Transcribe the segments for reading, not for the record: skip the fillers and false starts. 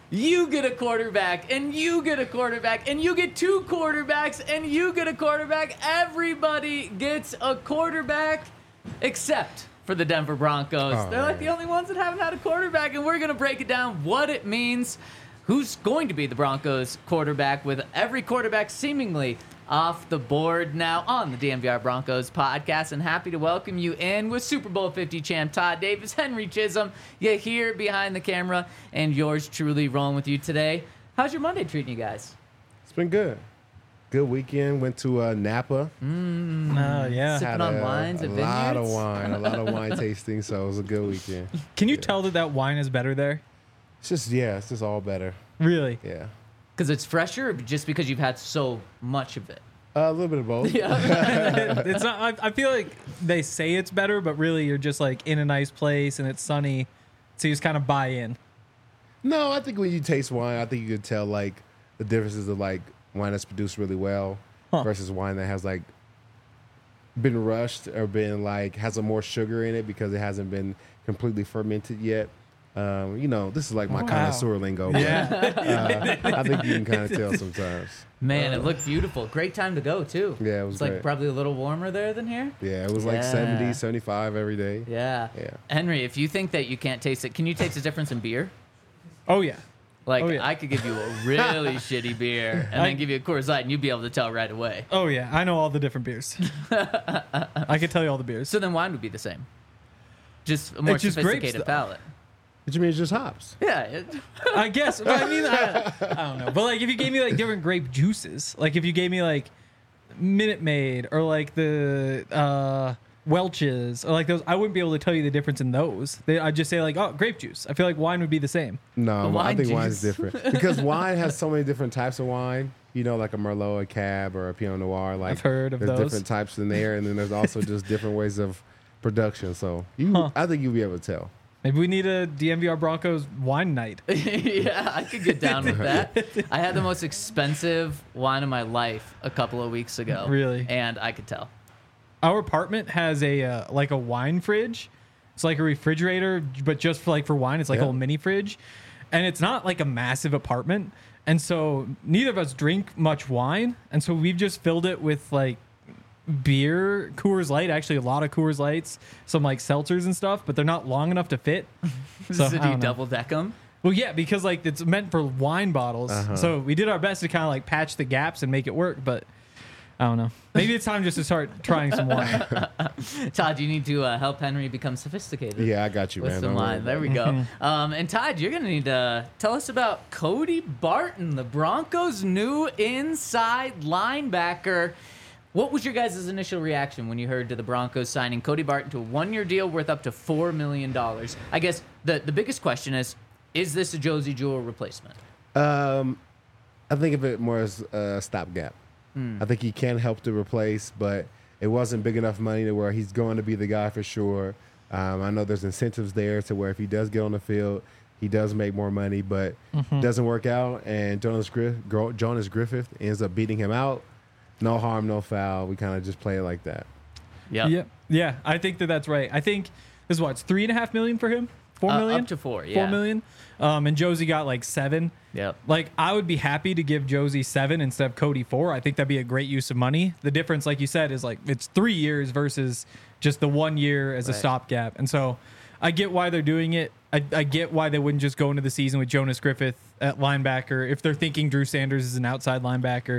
you get a quarterback, and you get a quarterback, and you get two quarterbacks, and you get a quarterback. Everybody gets a quarterback except for the Denver Broncos. Oh, They're like man. the only ones that haven't had a quarterback, and we're going to break it down what it means, who's going to be the Broncos quarterback, with every quarterback seemingly off the board now on the DNVR Broncos podcast. And happy to welcome you in with Super Bowl 50 champ Todd Davis, Henry Chisholm. You here behind the camera, and yours truly rolling with you today. How's your Monday treating you guys? It's been good. Good weekend. Went to Napa. Yeah. Sipping on wines a at lot of vineyards? wine. A lot of wine tasting. So it was a good weekend. Can you tell that wine is better there? It's just all better. Really? Yeah. Because it's fresher, or just because you've had so much of it? A little bit of both. It's not. I feel like they say it's better, but really you're just like in a nice place and it's sunny, so you just kind of buy in. No, I think when you taste wine, I think you could tell like the differences of like wine that's produced really well versus wine that has like been rushed or been like has a more sugar in it because it hasn't been completely fermented yet. This is like my connoisseur lingo. But, I think you can kind of tell sometimes. Man, it looked beautiful. Great time to go, too. Yeah, it was It's like great. probably a little warmer there than here. Yeah, it was like Yeah. 70, 75 every day. Yeah. Yeah. Henry, if you think that you can't taste it, can you taste the difference in beer? Oh yeah. Like, Oh, yeah. I could give you a really shitty beer and then give you a Coors Light, and you'd be able to tell right away. Oh yeah. I know all the different beers. I can tell you all the beers. So then wine would be the same. Just a more It's just grapes, sophisticated though. palate. What you mean it's just hops? Yeah. I guess. But I mean, I don't know. But like, if you gave me like different grape juices, like if you gave me like Minute Maid or like the Welch's or like those, I wouldn't be able to tell you the difference in those. I'd just say like, oh, grape juice. I feel like wine would be the same. No, Wine I think juice. wine's different because wine has so many different types of wine. You know, like a Merlot, a Cab, or a Pinot Noir. Like I've heard of there's those. different types in there, and then there's also just different ways of production. So I think you'll be able to tell. Maybe we need a DNVR Broncos wine night. Yeah, I could get down with that. I had the most expensive wine of my life a couple of weeks ago. Really? And I could tell. Our apartment has a like a wine fridge. It's like a refrigerator, but just for wine. It's like a Yeah. little mini fridge, and it's not like a massive apartment. And so neither of us drink much wine, and so we've just filled it with like beer, Coors Light. Actually, a lot of Coors Lights, some like seltzers and stuff, but they're not long enough to fit. So I do you don't know. double deck them? Well, yeah, because like it's meant for wine bottles. So we did our best to kind of like patch the gaps and make it work, but I don't know. Maybe it's time just to start trying some wine. Todd, you need to help Henry become sophisticated. Yeah, I got you, With man. some Don't worry wine. There we about go. And Todd, you're going to need to tell us about Cody Barton, the Broncos' new inside linebacker. What was your guys' initial reaction when you heard to the Broncos signing Cody Barton to a one-year deal worth up to $4 million? I guess the biggest question is this a Josie Jewell replacement? I think of it more as a stopgap. I think he can help to replace, but it wasn't big enough money to where he's going to be the guy for sure. I know there's incentives there to where if he does get on the field, he does make more money, but doesn't work out, and Jonas Griffith ends up beating him out. No harm, no foul. We kind of just play it like that. Yep. Yeah. I think that's right. I think this is what, it's $3.5 million for him? $4 million? Up to 4, yeah. $4 million. And Josie got like 7. Yep. Like, I would be happy to give Josie 7 instead of Cody 4. I think that'd be a great use of money. The difference, like you said, is like it's 3 years versus just the 1 year as a Right. stopgap. And so I get why they're doing it. I get why they wouldn't just go into the season with Jonas Griffith at linebacker if they're thinking Drew Sanders is an outside linebacker.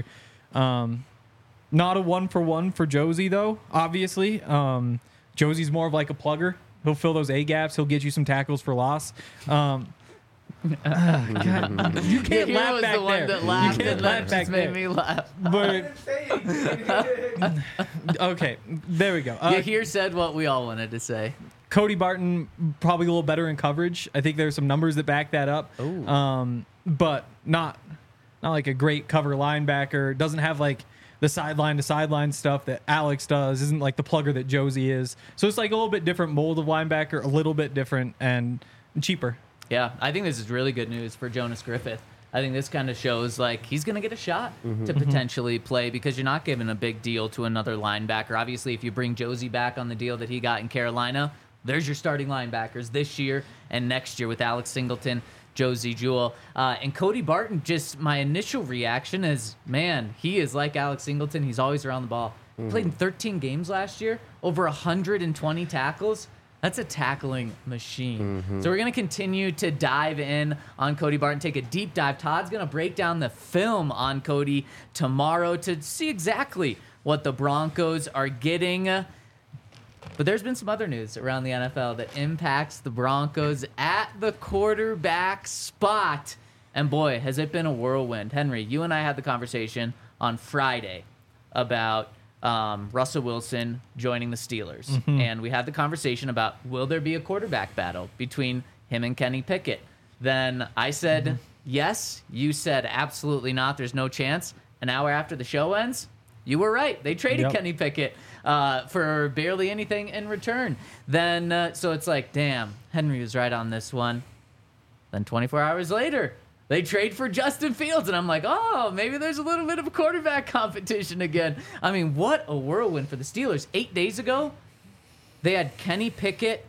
Not a 1-for-1 for Josie, though, obviously. Josie's more of like a plugger. He'll fill those A gaps. He'll get you some tackles for loss. God, you can't He laugh was back the one there. that laughed, You can't and laugh that back just made there. me laugh. But okay, there we go. You here said what we all wanted to say. Cody Barton probably a little better in coverage. I think there's some numbers that back that up. Ooh. But not like a great cover linebacker. Doesn't have like the sideline to sideline stuff that Alex does. Isn't like the plugger that Josie is. So it's like a little bit different mold of linebacker, a little bit different and cheaper. Yeah, I think this is really good news for Jonas Griffith. I think this kind of shows like he's going to get a shot to potentially play because you're not giving a big deal to another linebacker. Obviously, if you bring Josie back on the deal that he got in Carolina, there's your starting linebackers this year and next year with Alex Singleton, Josie Jewell. And Cody Barton, just my initial reaction is, man, he is like Alex Singleton. He's always around the ball. Played in 13 games last year, over 120 tackles. That's a tackling machine. So we're going to continue to dive in on Cody Barton, take a deep dive. Todd's going to break down the film on Cody tomorrow to see exactly what the Broncos are getting. But there's been some other news around the NFL that impacts the Broncos at the quarterback spot. And boy, has it been a whirlwind. Henry, you and I had the conversation on Friday about Russell Wilson joining the Steelers. And we had the conversation about, will there be a quarterback battle between him and Kenny Pickett? Then I said, yes. You said, absolutely not. There's no chance. An hour after the show ends, you were right. They traded Kenny Pickett for barely anything in return. Then, so it's like, damn, Henry was right on this one. Then 24 hours later, they trade for Justin Fields, and I'm like, oh, maybe there's a little bit of a quarterback competition again. I mean, what a whirlwind for the Steelers. 8 days ago, they had Kenny Pickett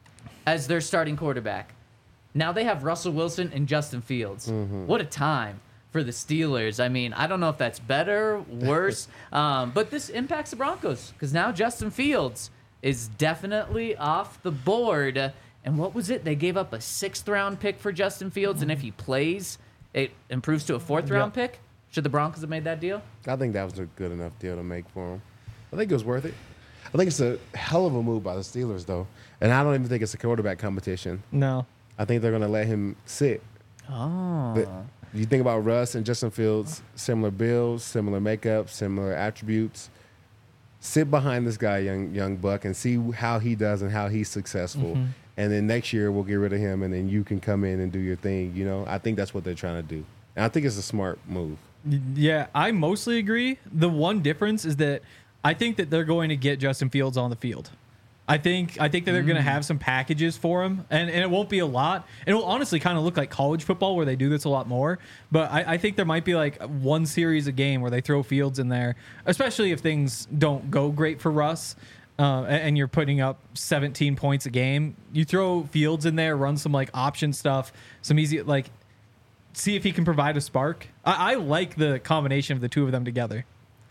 as their starting quarterback. Now they have Russell Wilson and Justin Fields. What a time for the Steelers. I mean, I don't know if that's better, worse, but this impacts the Broncos because now Justin Fields is definitely off the board. And what was it? They gave up a 6th-round pick for Justin Fields, and if he plays, it improves to a 4th-round pick. Should the Broncos have made that deal? I think that was a good enough deal to make for him. I think it was worth it. I think it's a hell of a move by the Steelers, though. And I don't even think it's a quarterback competition. No. I think they're going to let him sit. Oh. But you think about Russ and Justin Fields, similar builds, similar makeup, similar attributes. Sit behind this guy, young buck, and see how he does and how he's successful. And then next year we'll get rid of him, and then you can come in and do your thing. You know, I think that's what they're trying to do, and I think it's a smart move. Yeah, I mostly agree. The one difference is that I think that they're going to get Justin Fields on the field. I think that they're going to have some packages for him, and it won't be a lot. It'll honestly kind of look like college football where they do this a lot more. But I think there might be like one series a game where they throw Fields in there, especially if things don't go great for Russ. And you're putting up 17 points a game. You throw Fields in there, run some like option stuff, some easy like, see if he can provide a spark. I like the combination of the two of them together.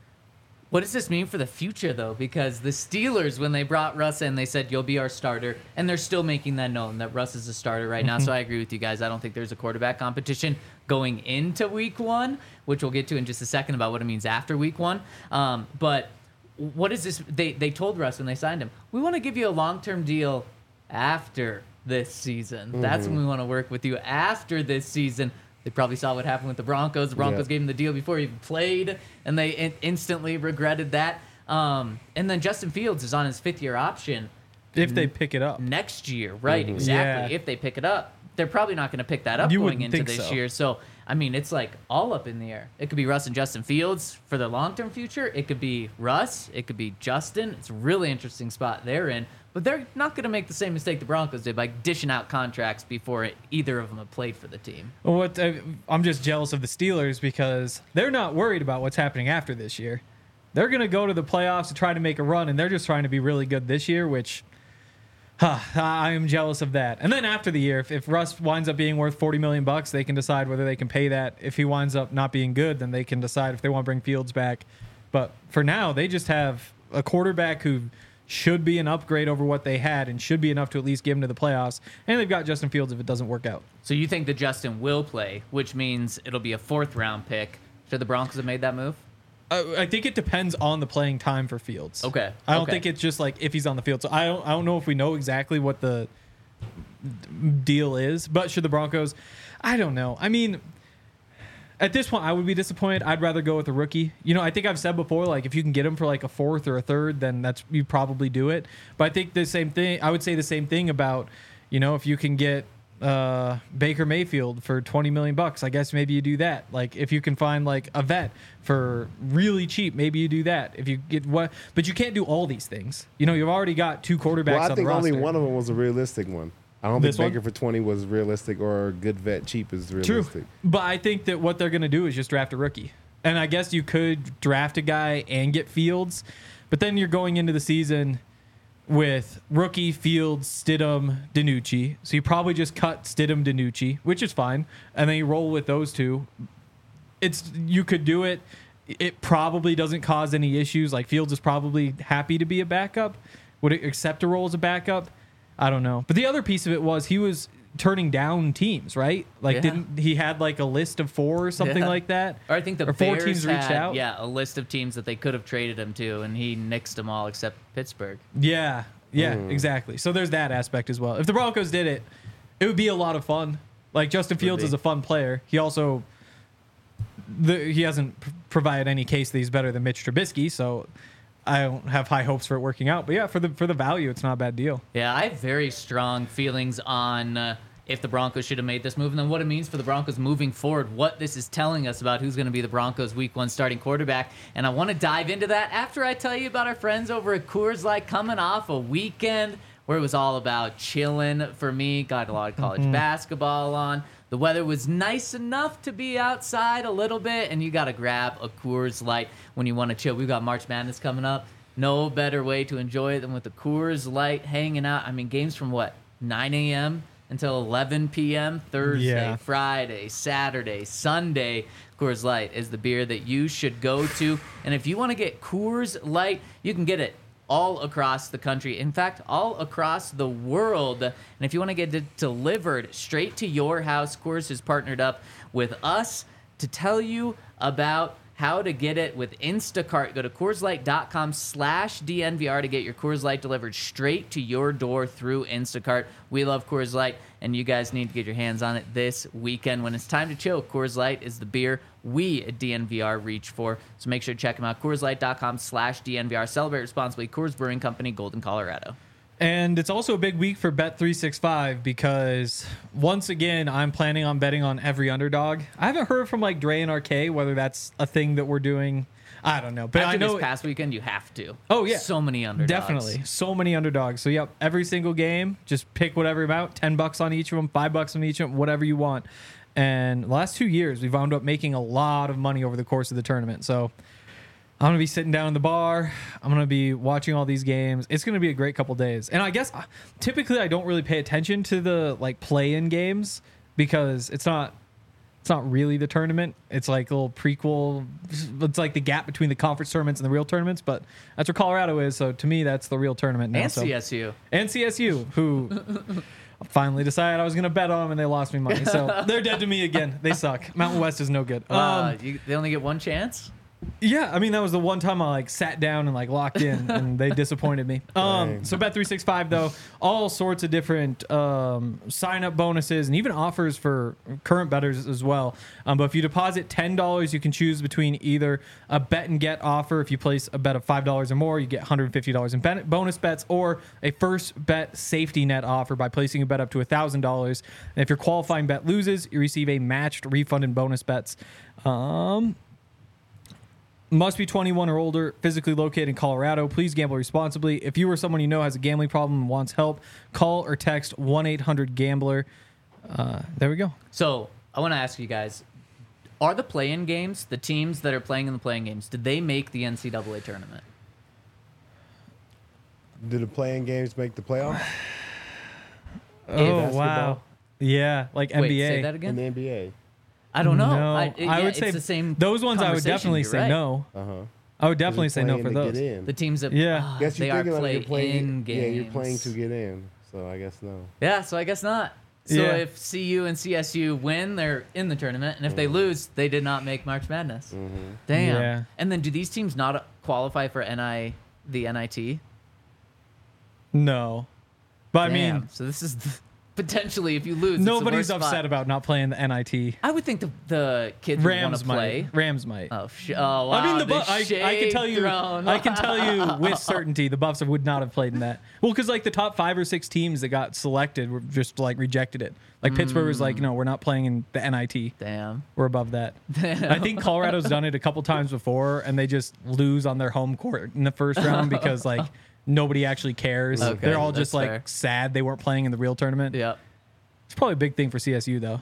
What does this mean for the future, though? Because the Steelers, when they brought Russ in, they said, you'll be our starter. And they're still making that known that Russ is a starter right now. So I agree with you guys. I don't think there's a quarterback competition going into week 1, which we'll get to in just a second about what it means after week 1. But what is this? They told Russ when they signed him, we want to give you a long-term deal after this season. That's when we want to work with you after this season. They probably saw what happened with the Broncos. The Broncos gave him the deal before he even played, and they instantly regretted that. And then Justin Fields is on his 5th-year option. If they pick it up. Next year, right, exactly. Yeah. If they pick it up. They're probably not going to pick that up going into this year. So, I mean, it's like all up in the air. It could be Russ and Justin Fields for the long-term future. It could be Russ. It could be Justin. It's a really interesting spot they're in. But they're not going to make the same mistake the Broncos did by dishing out contracts before either of them have played for the team. Well, I'm just jealous of the Steelers because they're not worried about what's happening after this year. They're going to go to the playoffs to try to make a run, and they're just trying to be really good this year, which I am jealous of that. And then after the year, if Russ winds up being worth $40 million, they can decide whether they can pay that. If he winds up not being good, then they can decide if they want to bring Fields back. But for now, they just have a quarterback who should be an upgrade over what they had and should be enough to at least get them to the playoffs. And they've got Justin Fields if it doesn't work out. So you think that Justin will play, which means it'll be a 4th-round pick. Should the Broncos have made that move? I think it depends on the playing time for Fields. Okay. I don't think it's just like if he's on the field. So I don't know if we know exactly what the deal is. But should the Broncos? I don't know. I mean, at this point, I would be disappointed. I'd rather go with a rookie. You know, I think I've said before, like if you can get him for like a 4th or a 3rd, then you probably do it. But I think the same thing. I would say the same thing about, you know, if you can get Baker Mayfield for $20 million, I guess maybe you do that. Like if you can find like a vet for really cheap, maybe you do that. If you get but you can't do all these things. You know, you've already got 2 quarterbacks on the roster. Well, I think only one of them was a realistic one. I don't think This one? Baker for 20 was realistic or good vet cheap is realistic. True. But I think that what they're going to do is just draft a rookie. And I guess you could draft a guy and get Fields, but then you're going into the season with rookie, Fields, Stidham, DiNucci. So you probably just cut Stidham, DiNucci, which is fine, and then you roll with those two. You could do it. It probably doesn't cause any issues. Like Fields is probably happy to be a backup. Would it accept a role as a backup? I don't know. But the other piece of it was he was turning down teams, right? Like Yeah. didn't he had like a list of 4 or something Yeah. like that? Or I think the Or 4 Bears teams reached had, out. yeah, a list of teams that they could have traded him to, and he nixed them all except Pittsburgh. Yeah, exactly. So there's that aspect as well. If the Broncos did it, it would be a lot of fun. Like Justin Fields be. is a fun player. He also he hasn't provided any case that he's better than Mitch Trubisky, so I don't have high hopes for it working out. But yeah, for the value, it's not a bad deal. Yeah, I have very strong feelings on if the Broncos should have made this move, and then what it means for the Broncos moving forward, what this is telling us about who's going to be the Broncos' Week 1 starting quarterback. And I want to dive into that after I tell you about our friends over at Coors Light coming off a weekend where it was all about chilling for me. Got a lot of college basketball on. The weather was nice enough to be outside a little bit, and you got to grab a Coors Light when you want to chill. We've got March Madness coming up. No better way to enjoy it than with the Coors Light hanging out. I mean, games from 9 a.m. until 11 p.m. Thursday, Yeah. Friday, Saturday, Sunday. Coors Light is the beer that you should go to. And if you want to get Coors Light, you can get it all across the country. In fact, all across the world. And if you want to get it delivered straight to your house, Coors has partnered up with us to tell you about how to get it with Instacart. Go to CoorsLight.com/DNVR to get your Coors Light delivered straight to your door through Instacart. We love Coors Light, and you guys need to get your hands on it this weekend. When it's time to chill, Coors Light is the beer we at DNVR reach for. So make sure to check them out. CoorsLight.com/DNVR. Celebrate responsibly. Coors Brewing Company, Golden, Colorado. And it's also a big week for Bet365 because once again, I'm planning on betting on every underdog. I haven't heard from like Dre and RK whether that's a thing that we're doing. I don't know, but After I know this past weekend, you have to. Oh, yeah. So many underdogs. definitely so many underdogs. So yep, every single game, just pick whatever amount, $10 on each of them, $5 on each of them, whatever you want. And the last 2 years, we've wound up making a lot of money over the course of the tournament. So I'm going to be sitting down in the bar. I'm going to be watching all these games. It's going to be a great couple days. And I guess typically I don't really pay attention to the like play-in games because it's not really the tournament. It's like a little prequel. It's like the gap between the conference tournaments and the real tournaments, but that's where Colorado is. So to me, that's the real tournament now. And So- CSU. and CSU, who finally decided I was going to bet on them and they lost me money. So they're dead to me again. They suck. Mountain West is no good. They only get one chance? Yeah, I mean that was the one time I like sat down and like locked in, and they disappointed me. So Bet365 though, all sorts of different sign up bonuses and even offers for current bettors as well. But if you deposit $10, you can choose between either a bet and get offer. If you place a bet of $5 or more, you get $150 in bonus bets, or a first bet safety net offer by placing a bet up to $1,000. And if your qualifying bet loses, you receive a matched refund in bonus bets. Must be 21 or older, physically located in Colorado. Please gamble responsibly. If you or someone you know has a gambling problem and wants help, call or text 1-800-GAMBLER. There we go. So I want to ask you guys, are the play-in games, the teams that are playing in the play-in games, did they make the NCAA tournament? Did the playing games make the playoffs Oh, basketball? wow. Yeah, like Wait, NBA. say that in again? the NBA? I don't know. No, I would it's say the same those ones I would conversation, definitely you're say right. no. I would definitely say no for those. The teams that Yeah. Guess they you're are thinking like you're play-in playing. games. Yeah, you're playing to get in. So I guess no. Yeah, so I guess not. So Yeah. if CU and CSU win, they're in the tournament, and if they lose, they did not make March Madness. Damn. Yeah. And then do these teams not qualify for the NIT? No. But I Damn. mean, So this is potentially, if you lose, it's the nobody's worst upset spot. about not playing the NIT. I would think the kids would want Rams to play. might. Rams might. Oh, wow. I mean, the Buffs. I can tell you. I can tell you with certainty, the Buffs would not have played in that. Well, because like the top 5 or 6 teams that got selected were just like rejected it. Like Pittsburgh was like, no, we're not playing in the NIT. Damn. We're above that. I think Colorado's done it a couple times before, and they just lose on their home court in the first round because like nobody actually cares. Okay, They're all just that's like fair. sad they weren't playing in the real tournament. Yep. It's probably a big thing for CSU though.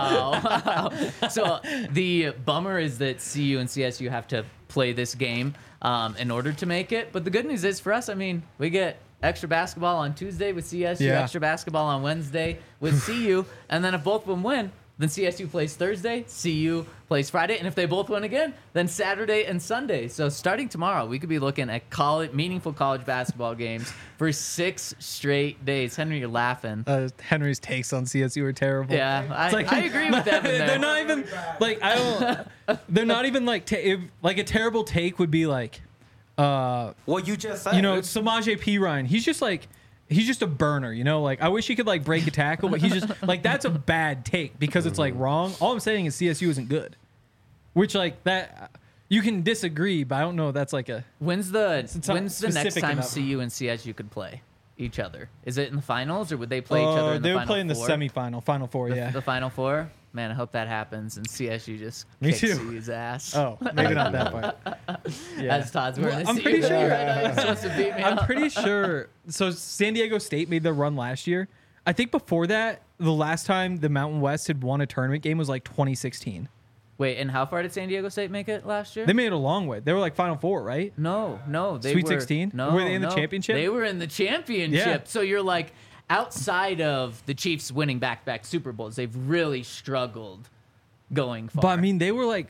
Wow. So the bummer is that CU and CSU have to play this game. in order to make it. But the good news is for us, I mean, we get extra basketball on Tuesday with CSU, Yeah. extra basketball on Wednesday with CU, and then if both of them win, then CSU plays Thursday, CU plays Friday, and if they both win again, then Saturday and Sunday. So starting tomorrow, we could be looking at meaningful college basketball games for 6 straight days. Henry, you're laughing. Henry's takes on CSU are terrible. Yeah, It's like- I agree with Evan there. They're not even like I don't. They're not even like like a terrible take would be like, Well, you just said. Samaje Perine. He's just a burner, like I wish he could like break a tackle, but he's just like that's a bad take because it's like wrong. All I'm saying is CSU isn't good, which like that you can disagree, but I don't know. That's like a When's the not next specific time enough. CU and CSU could play each other? Is it in the finals or would they play each other in the they final would play in the four? semifinal, Final Four. Yeah. The final four? Man, I hope that happens and CSU just Me kicks too. CU's ass. Oh, maybe not that part. Yeah. As Todd's wearing I'm the pretty CU sure- right now. He's supposed to beat me I'm up. pretty sure. So San Diego State made their run last year. I think before that, the last time the Mountain West had won a tournament game was like 2016. Wait, and how far did San Diego State make it last year? They made it a long way. They were like Final Four, right? No, they Sweet were 16? No, Were they in the no. championship? They were in the championship. Yeah. So you're like outside of the Chiefs winning back-to-back Super Bowls, they've really struggled going far. But I mean, they were like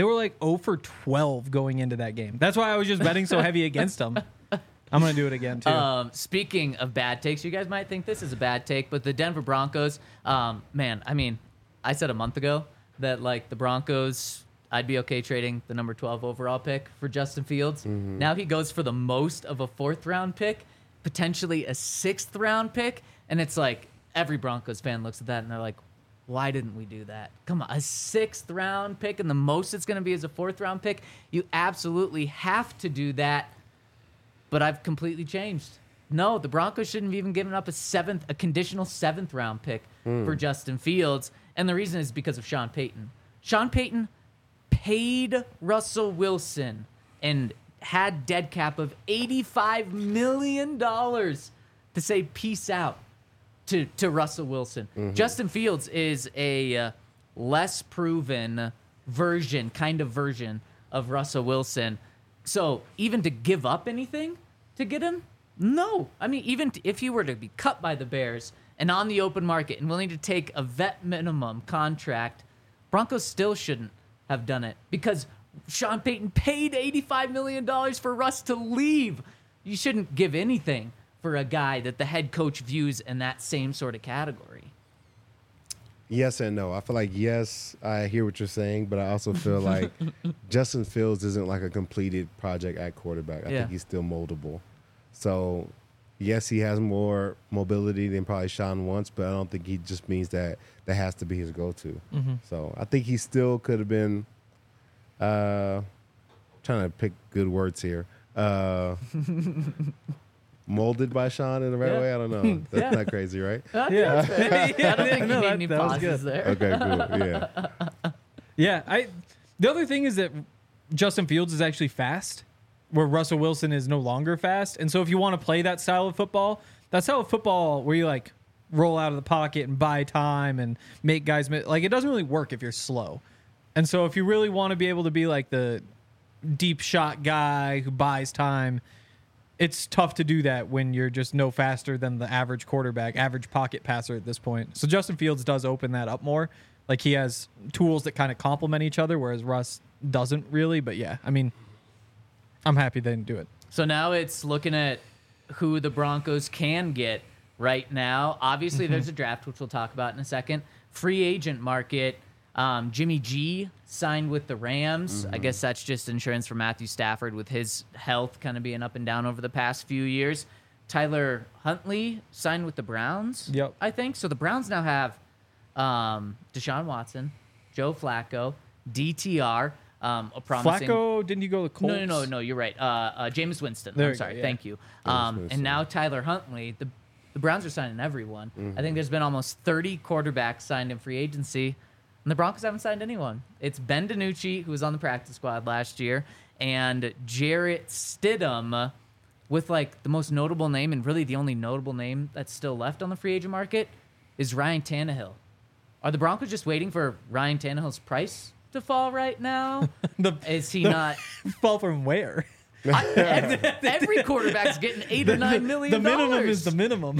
0 for 12 going into that game. That's why I was just betting so heavy against them. I'm gonna do it again too. Speaking of bad takes, you guys might think this is a bad take, but the Denver Broncos, man, I mean, I said a month ago that like the Broncos, I'd be okay trading the number 12 overall pick for Justin Fields. Now he goes for the most of a 4th round pick, potentially a 6th round pick, and it's like every Broncos fan looks at that and they're like, why didn't we do that? Come on, a 6th round pick and the most it's going to be is a 4th round pick. You absolutely have to do that. But I've completely changed. No, the Broncos shouldn't have even given up a conditional 7th round pick for Justin Fields. And the reason is because of Sean Payton. Sean Payton paid Russell Wilson and had dead cap of $85 million to say peace out to Russell Wilson. Justin Fields is a less proven version of Russell Wilson. So even to give up anything to get him? No. I mean, even if he were to be cut by the Bears and on the open market and willing to take a vet minimum contract, Broncos still shouldn't have done it because Sean Payton paid $85 million for Russ to leave. You shouldn't give anything for a guy that the head coach views in that same sort of category. Yes and no. I feel like, yes, I hear what you're saying, but I also feel like Justin Fields isn't like a completed project at quarterback. I Yeah. think he's still moldable. So, yes, he has more mobility than probably Sean wants, but I don't think he just means that has to be his go-to. So, I think he still could have been trying to pick good words here. Molded by Sean in the right Yeah. way? I don't know. That's Yeah. not crazy, right? Yeah. I don't think No, you need that- any that was pauses good. there. Okay, cool. Yeah. Yeah, the other thing is that Justin Fields is actually fast, where Russell Wilson is no longer fast. And so if you want to play that style of football where you like roll out of the pocket and buy time and make guys like it doesn't really work if you're slow. And so if you really want to be able to be like the deep shot guy who buys time, it's tough to do that when you're just no faster than the average quarterback, average pocket passer at this point. So Justin Fields does open that up more. Like he has tools that kind of complement each other, whereas Russ doesn't really. But yeah, I mean, I'm happy they didn't do it. So now it's looking at who the Broncos can get right now. Obviously, there's a draft, which we'll talk about in a second. Free agent market. Jimmy G signed with the Rams. I guess that's just insurance for Matthew Stafford with his health kind of being up and down over the past few years. Tyler Huntley signed with the Browns, Yep. I think. So the Browns now have Deshaun Watson, Joe Flacco, DTR, a promising... Flacco, didn't you go to the Colts? No, you're right. Jameis Winston. There I'm you go, sorry. yeah. Thank you. Winston. And now Tyler Huntley. The Browns are signing everyone. I think there's been almost 30 quarterbacks signed in free agency, and the Broncos haven't signed anyone. It's Ben DiNucci, who was on the practice squad last year, and Jarrett Stidham, with like the most notable name and really the only notable name that's still left on the free agent market is Ryan Tannehill. Are the Broncos just waiting for Ryan Tannehill's price to fall right now? Is he not? Fall from where? Every quarterback's getting $8 or $9 million. The minimum is the minimum.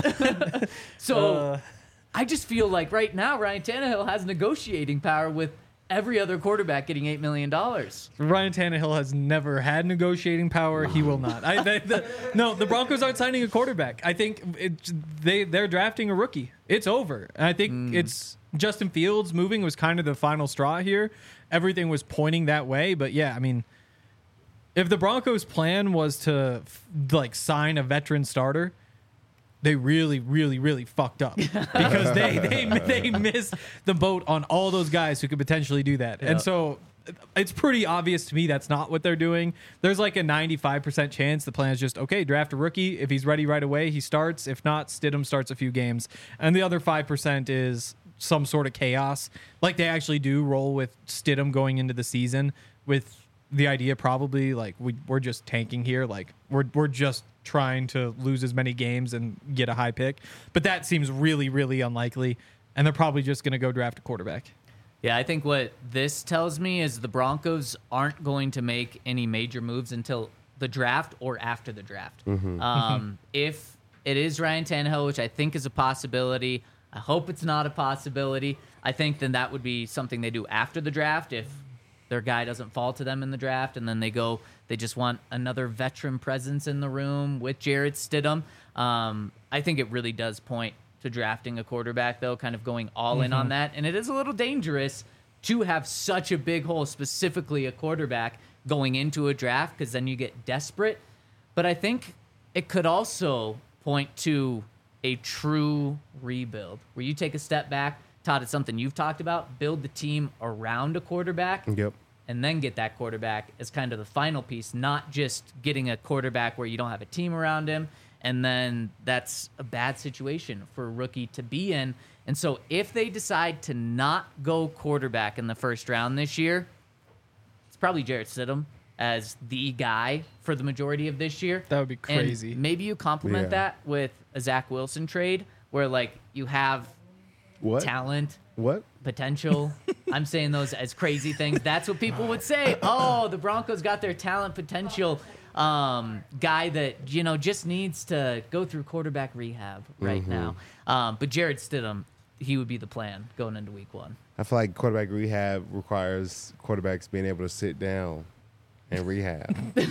So I just feel like right now Ryan Tannehill has negotiating power with every other quarterback getting $8 million. Ryan Tannehill has never had negotiating power. He will not. No, the Broncos aren't signing a quarterback. I think they're drafting a rookie. It's over. And I think it's Justin Fields moving was kind of the final straw here. Everything was pointing that way. But yeah, I mean, if the Broncos' plan was to sign a veteran starter, they really, really, really fucked up because they missed the boat on all those guys who could potentially do that. Yep. And so it's pretty obvious to me that's not what they're doing. There's like a 95% chance the plan is just, okay, draft a rookie. If he's ready right away, he starts. If not, Stidham starts a few games. And the other 5% is some sort of chaos. Like they actually do roll with Stidham going into the season with the idea probably like we're just tanking here. Like we're just trying to lose as many games and get a high pick. But that seems really, really unlikely. And they're probably just going to go draft a quarterback. Yeah, I think what this tells me is the Broncos aren't going to make any major moves until the draft or after the draft. If it is Ryan Tannehill, which I think is a possibility, I hope it's not a possibility. I think then that would be something they do after the draft if their guy doesn't fall to them in the draft, and then they just want another veteran presence in the room with Jarrett Stidham. I think it really does point to drafting a quarterback, though, kind of going all in on that. And it is a little dangerous to have such a big hole, specifically a quarterback, going into a draft, because then you get desperate. But I think it could also point to a true rebuild, where you take a step back. Todd, it's something you've talked about. Build the team around a quarterback. Yep. And then get that quarterback as kind of the final piece, not just getting a quarterback where you don't have a team around him. And then that's a bad situation for a rookie to be in. And so if they decide to not go quarterback in the first round this year, it's probably Jarrett Stidham as the guy for the majority of this year. That would be crazy. And maybe you complement that with a Zach Wilson trade where like you have talent. What? Potential. I'm saying those as crazy things. That's what people would say. Oh, the Broncos got their talent potential guy that, just needs to go through quarterback rehab right now. But Jarrett Stidham, he would be the plan going into week 1. I feel like quarterback rehab requires quarterbacks being able to sit down and rehab.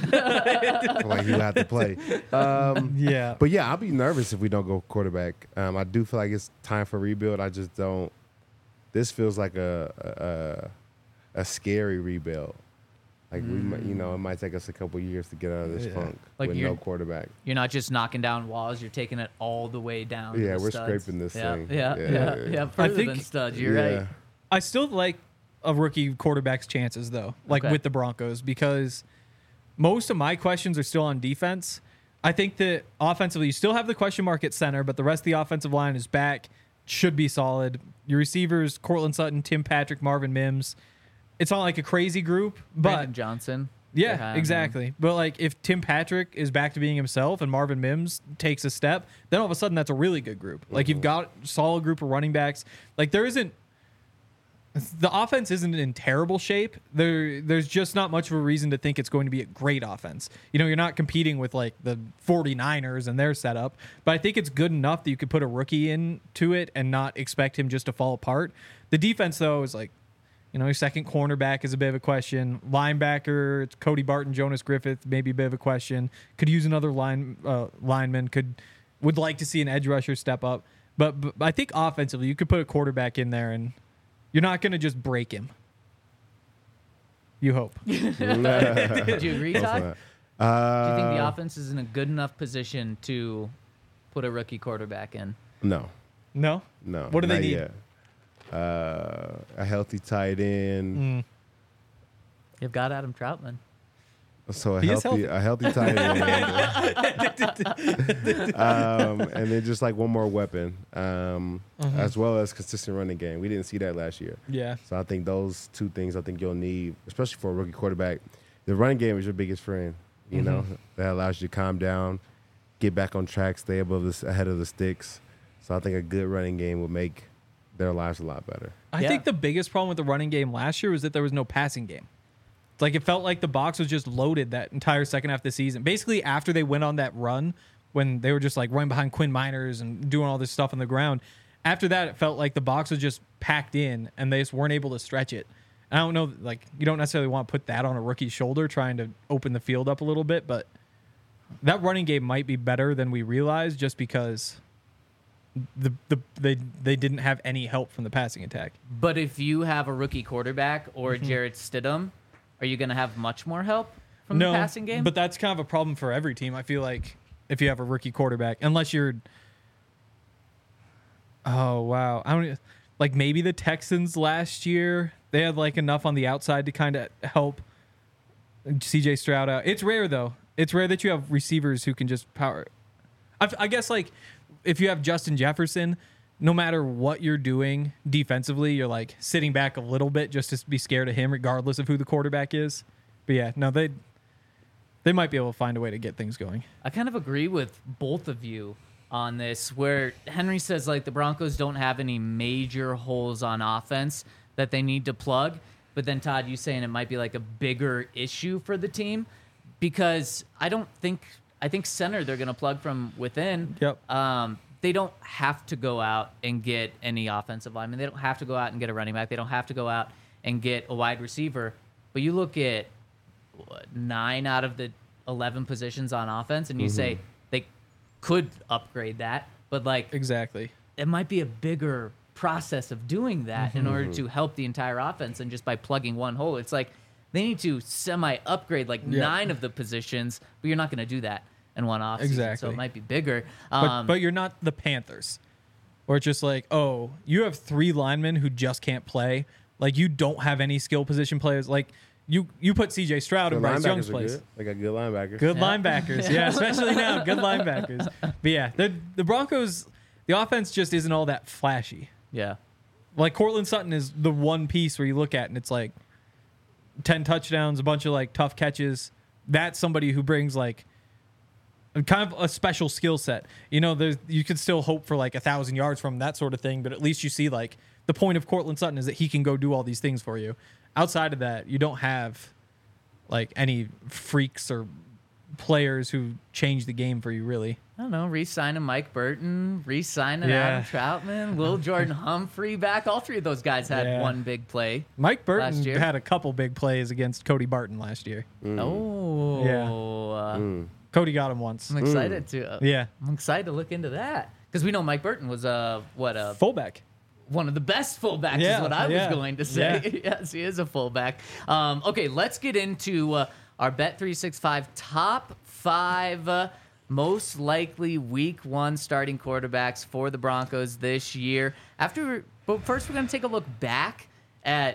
Like you have to play. Yeah. But yeah, I'll be nervous if we don't go quarterback. I do feel like it's time for rebuild. I just don't. This feels like a scary rebuild. Like we might, it might take us a couple years to get out of this funk with no quarterback. You're not just knocking down walls; you're taking it all the way down. Yeah, to we're studs. scraping this thing. Yeah. Further than studs. You're right. I still like a rookie quarterback's chances though, with the Broncos, because most of my questions are still on defense. I think that offensively, you still have the question mark at center, but the rest of the offensive line is back. Should be solid. Your receivers, Cortland Sutton, Tim Patrick, Marvin Mims. It's not like a crazy group, but Brandon Johnson. Yeah, exactly. But like if Tim Patrick is back to being himself and Marvin Mims takes a step, then all of a sudden that's a really good group. Like you've got a solid group of running backs. Like the offense isn't in terrible shape. There's just not much of a reason to think it's going to be a great offense. You're not competing with like the 49ers and their setup, but I think it's good enough that you could put a rookie into it and not expect him just to fall apart. The defense though is like, your second cornerback is a bit of a question. Linebacker, it's Cody Barton, Jonas Griffith, maybe a bit of a question. Could use another lineman. Would like to see an edge rusher step up. But I think offensively, you could put a quarterback in there and you're not going to just break him. You hope. Do you agree, Todd? Do you think the offense is in a good enough position to put a rookie quarterback in? No. No? No. What do they need? Yet. A healthy tight end. You've got Adam Troutman. So a healthy tight end. And then just like one more weapon, as well as consistent running game. We didn't see that last year. Yeah. So I think those two things you'll need, especially for a rookie quarterback. The running game is your biggest friend. That allows you to calm down, get back on track, stay ahead of the sticks. So I think a good running game would make their lives a lot better. I think the biggest problem with the running game last year was that there was no passing game. Like, it felt like the box was just loaded that entire second half of the season. Basically, after they went on that run, when they were just like running behind Quinn Miners and doing all this stuff on the ground, after that, it felt like the box was just packed in and they just weren't able to stretch it. I don't know, like, you don't necessarily want to put that on a rookie's shoulder trying to open the field up a little bit, but that running game might be better than we realized just because they didn't have any help from the passing attack. But if you have a rookie quarterback or Jarrett Stidham, are you going to have much more help from the passing game? But that's kind of a problem for every team. I feel like if you have a rookie quarterback, unless you're, oh wow, I don't like maybe the Texans last year. They had like enough on the outside to kind of help CJ Stroud out. It's rare though. It's rare that you have receivers who can just power. I guess like if you have Justin Jefferson, no matter what you're doing defensively, you're like sitting back a little bit just to be scared of him, regardless of who the quarterback is. But yeah, no, they might be able to find a way to get things going. I kind of agree with both of you on this, where Henry says like the Broncos don't have any major holes on offense that they need to plug. But then Todd, you saying it might be like a bigger issue for the team because I think center they're going to plug from within. Yep. They don't have to go out and get any offensive lineman. They don't have to go out and get a running back. They don't have to go out and get a wide receiver. But you look at 9 out of the 11 positions on offense, and you say they could upgrade that. But like Exactly. it might be a bigger process of doing that in order to help the entire offense than just by plugging one hole. It's like they need to semi-upgrade like 9 of the positions, but you're not going to do that in one offseason, Exactly. so it might be bigger. But you're not the Panthers, where it's just like, oh, you have 3 linemen who just can't play. Like, you don't have any skill position players. Like, you put CJ Stroud in Bryce Young's place. They got good linebackers. Good linebackers, yeah, especially now, good linebackers. But yeah, the Broncos, the offense just isn't all that flashy. Yeah. Like, Cortland Sutton is the one piece where you look at and it's like 10 touchdowns, a bunch of like tough catches. That's somebody who brings like kind of a special skill set. You know, you could still hope for like 1,000 yards from that sort of thing, but at least you see like the point of Cortland Sutton is that he can go do all these things for you. Outside of that, you don't have like any freaks or players who change the game for you, really. I don't know, re-signing Mike Burton, re-signing Yeah. Adam Troutman, Will Jordan Humphrey back. All 3 of those guys had one big play. Mike Burton last year. had a couple big plays against Cody Barton last year. Oh. Yeah. Cody got him once. I'm excited to Yeah. I'm excited to look into that because we know Mike Burton was Fullback. one of the best fullbacks is what I was going to say. Yes, he is a fullback. Okay, let's get into our Bet365 top 5 most likely week 1 starting quarterbacks for the Broncos this year. But first we're going to take a look back at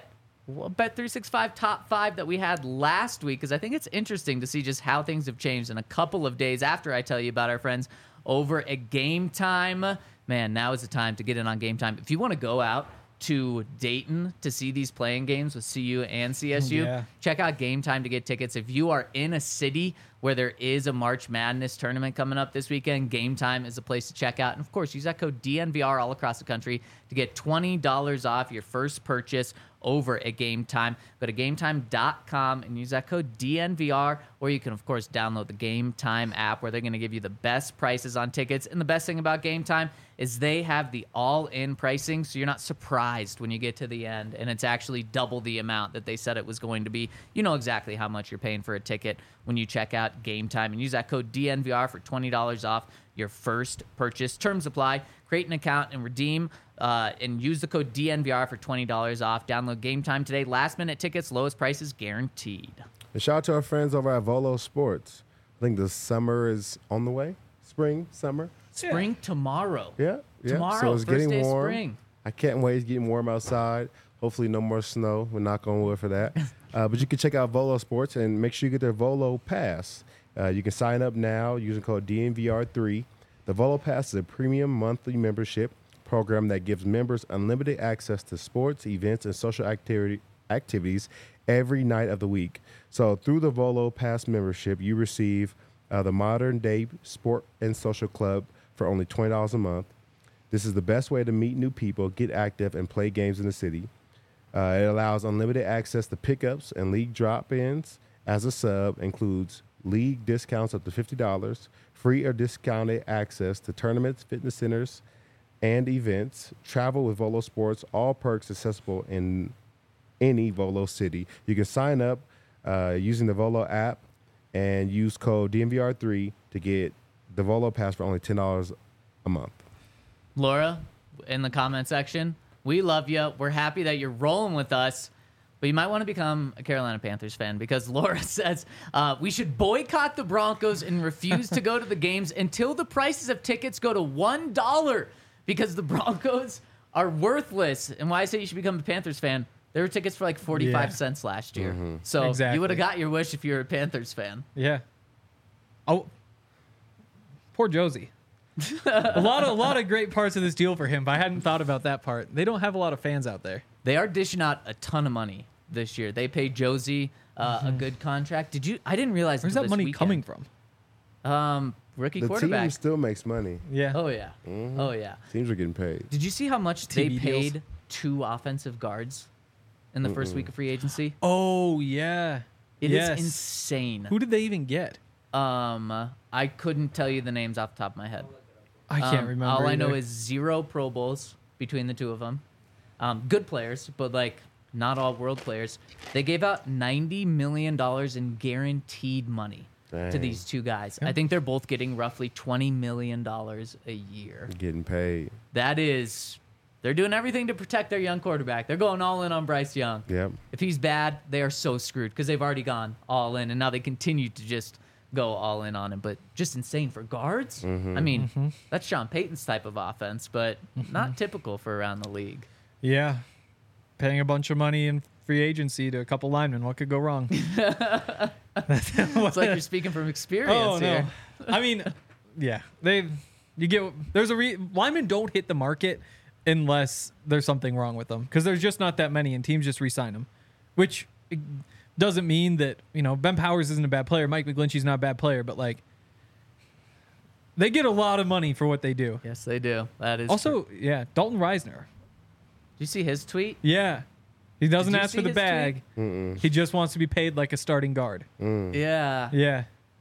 Bet365 top 5 that we had last week, because I think it's interesting to see just how things have changed in a couple of days after I tell you about our friends over at Game Time. Man, now is the time to get in on Game Time. If you want to go out to Dayton to see these playing games with CU and CSU, check out Game Time to get tickets. If you are in a city where there is a March Madness tournament coming up this weekend, Game Time is a place to check out. And of course, use that code DNVR all across the country to get $20 off your first purchase over at Game Time. Go to GameTime.com and use that code DNVR, or you can, of course, download the Game Time app where they're going to give you the best prices on tickets. And the best thing about Game Time is they have the all-in pricing, so you're not surprised when you get to the end, and it's actually double the amount that they said it was going to be. You know exactly how much you're paying for a ticket when you check out Game Time, and use that code DNVR for $20 off your first purchase. Terms apply. Create an account and redeem and use the code DNVR for $20 off. Download Game Time today. Last-minute tickets, lowest prices guaranteed. And shout out to our friends over at Volo Sports. I think the summer is on the way. Spring, summer. Spring tomorrow. Yeah. Tomorrow, So it's first getting day of warm. spring. I can't wait. It's getting warm outside. Hopefully no more snow. We're knock on wood for that. But you can check out Volo Sports and make sure you get their Volo Pass. You can sign up now using code DNVR3. The Volo Pass is a premium monthly membership program that gives members unlimited access to sports, events, and social activities every night of the week. So through the Volo Pass membership, you receive the Modern Day Sport and Social Club for only $20 a month. This is the best way to meet new people, get active, and play games in the city. It allows unlimited access to pickups and league drop-ins as a sub, includes league discounts up to $50, free or discounted access to tournaments, fitness centers, and events, travel with Volo Sports, all perks accessible in any Volo city. You can sign up using the Volo app and use code DNVR3 to get the Volo Pass for only $10 a month. Laura, in the comment section, we love you. We're happy that you're rolling with us, but you might want to become a Carolina Panthers fan because Laura says we should boycott the Broncos and refuse to go to the games until the prices of tickets go to $1 because the Broncos are worthless. And why I say you should become a Panthers fan, there were tickets for like 45 cents last year. So Exactly. you would have got your wish if you're a Panthers fan. Yeah. Oh, poor Josie. a lot of great parts of this deal for him, but I hadn't thought about that part. They don't have a lot of fans out there. They are dishing out a ton of money this year. They paid Josie a good contract. I didn't realize. Where's until that this money weekend. coming from? Rookie The quarterback. team still makes money. Yeah. Oh yeah. Oh yeah. Teams are getting paid. Did you see how much they TV paid deals. 2 offensive guards in the first week of free agency? Oh yeah. It is Yes. insane. Who did they even get? I couldn't tell you the names off the top of my head. I can't remember. All I know either. is 0 Pro Bowls between the two of them. Good players, but like not all world players. They gave out $90 million in guaranteed money to Dang. these two guys. I think they're both getting roughly $20 million a year. Getting paid. That is, they're doing everything to protect their young quarterback. They're going all in on Bryce Young. Yep. If he's bad, they are so screwed because they've already gone all in, and now they continue to just go all in on him. But just insane for guards. I mean, that's Sean Payton's type of offense, but not typical for around the league. Yeah. Paying a bunch of money in free agency to a couple linemen. What could go wrong? It's like you're speaking from experience Oh here. no. I mean, yeah. Linemen don't hit the market unless there's something wrong with them because there's just not that many and teams just re-sign them, which doesn't mean that, Ben Powers isn't a bad player. Mike McGlinchey's not a bad player, but like they get a lot of money for what they do. Yes, they do. That is Also, true. yeah, Dalton Reisner. Did you see his tweet? Yeah. He doesn't Did you ask see for the his bag. He just wants to be paid like a starting guard. Yeah. Yeah.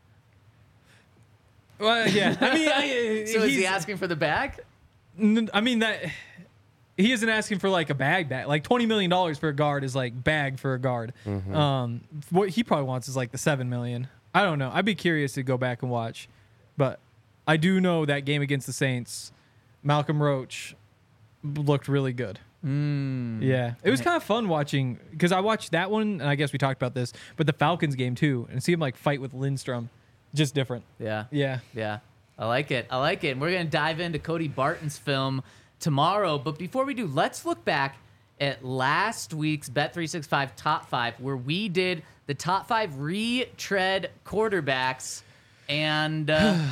Well, yeah. I mean, So is he asking for the bag? I mean that he isn't asking for like a bag. Like $20 million for a guard is like bag for a guard. What he probably wants is like the $7 million. I don't know. I'd be curious to go back and watch, but I do know that game against the Saints, Malcolm Roach looked really good. Yeah, it was kind of fun watching because I watched that one, and I guess we talked about this, but the Falcons game too, and see him like fight with Lindstrom, just different. Yeah. Yeah. Yeah. I like it. I like it. And we're going to dive into Cody Barton's film tomorrow. But before we do, let's look back at last week's Bet365 Top 5, where we did the top 5 retread quarterbacks, and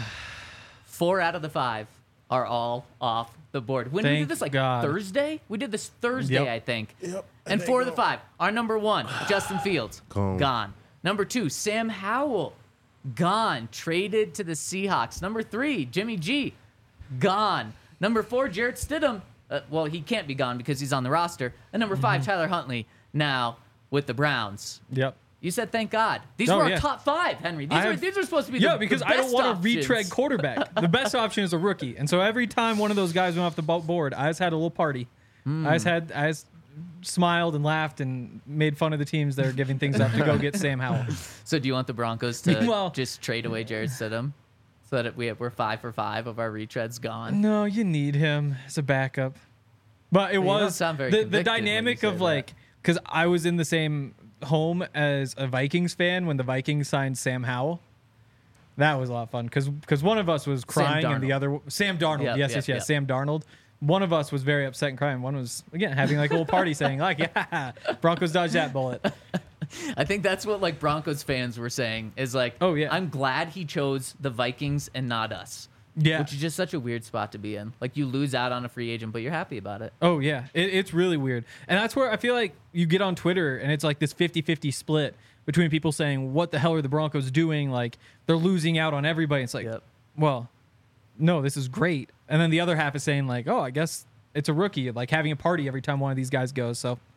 4 out of the 5 are all off the board. When we Thank did this, like God. Thursday? We did this Thursday, Yep. I think. Yep. And 4 of the 5. Our number 1, Justin Fields, Gone. gone. Number 2, Sam Howell, gone. Traded to the Seahawks. Number 3, Jimmy G, gone. Number 4, Jarrett Stidham. Well, he can't be gone because he's on the roster. And number 5, Tyler Huntley, now with the Browns. Yep. You said thank God. These Oh, were our yeah. top 5, Henry. These are supposed to be Yeah, the because the I don't best want a options. retread quarterback. The best option is a rookie, and so every time one of those guys went off the board, I just had a little party. I just smiled and laughed and made fun of the teams that are giving things up to go get Sam Howell. So do you want the Broncos to Well- just trade away Jarrett Stidham so that we're 5 for 5 of our retreads gone? No, you need him as a backup. But it You don't was sound very the convicted when dynamic you of say like, because I was in the same home as a Vikings fan when the Vikings signed Sam Howell. That was a lot of fun because one of us was crying and the other Sam Darnold. Yep, Yes, yep. Sam Darnold. One of us was very upset and crying. One was again having like a little party saying like, yeah, Broncos dodged that bullet. I think that's what like Broncos fans were saying is like, Oh, yeah. I'm glad he chose the Vikings and not us. Yeah. Which is just such a weird spot to be in. Like you lose out on a free agent, but you're happy about it. Oh, yeah. It's really weird. And that's where I feel like you get on Twitter and it's like this 50-50 split between people saying, what the hell are the Broncos doing? Like, they're losing out on everybody. It's like, Yep. well, no, this is great. And then the other half is saying, like, oh, I guess it's a rookie, like having a party every time one of these guys goes. So,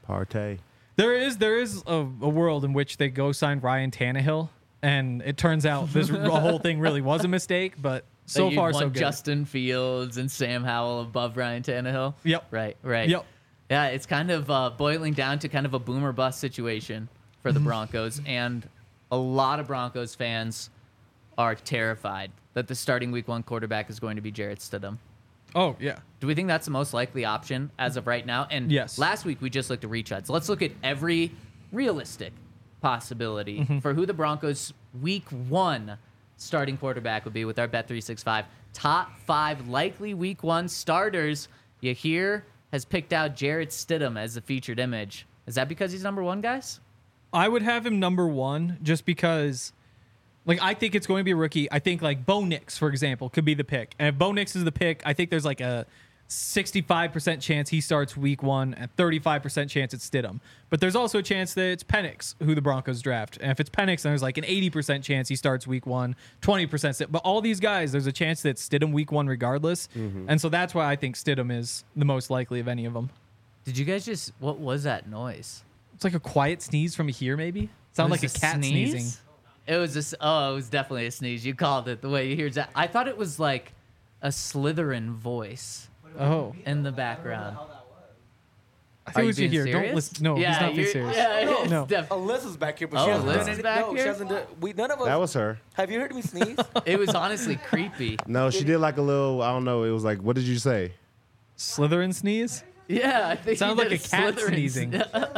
Partey. There is a world in which they go sign Ryan Tannehill, and it turns out this whole thing really was a mistake. But so That far, you'd so want good. Justin Fields and Sam Howell above Ryan Tannehill. Yep. Right. Yep. Yeah, it's kind of boiling down to kind of a boomer bust situation for the Broncos, and a lot of Broncos fans are terrified that the starting Week 1 quarterback is going to be Jarrett Stidham. Oh yeah. Do we think that's the most likely option as of right now? And Yes. last week we just looked at retreads. Let's look at every realistic possibility for who the Broncos Week 1 starting quarterback would be with our Bet365 top 5 likely Week 1 starters. Yahir has picked out Jarrett Stidham as the featured image. Is that because he's number 1, guys? I would have him number 1 just because, like, I think it's going to be a rookie. I think, like, Bo Nix, for example, could be the pick. And if Bo Nix is the pick, I think there's, like, a 65% chance he starts Week 1 and 35% chance it's Stidham. But there's also a chance that it's Penix who the Broncos draft. And if it's Penix, then there's, like, an 80% chance he starts Week 1, 20%. But all these guys, there's a chance that it's Stidham Week 1 regardless. And so that's why I think Stidham is the most likely of any of them. Did you guys just, what was that noise? It's like a quiet sneeze from here, maybe? Sound like a cat sneeze? sneezing. It was it was definitely a sneeze. You called it the way you hear that. I thought it was like a Slytherin voice Oh. in the background. I Are think you we should being hear. serious? Don't listen. No, he's not being you're- serious. Yeah, No. it's No. Alyssa's back here, but Oh, she hasn't Alyssa's done anything. back No, here? she hasn't done. None of us. That was her. Have you heard me sneeze? It was honestly creepy. No, she did like a little. I don't know. It was like, what did you say? Slytherin sneeze? Yeah, I think Sounds he like did a cat Slytherin sneezing.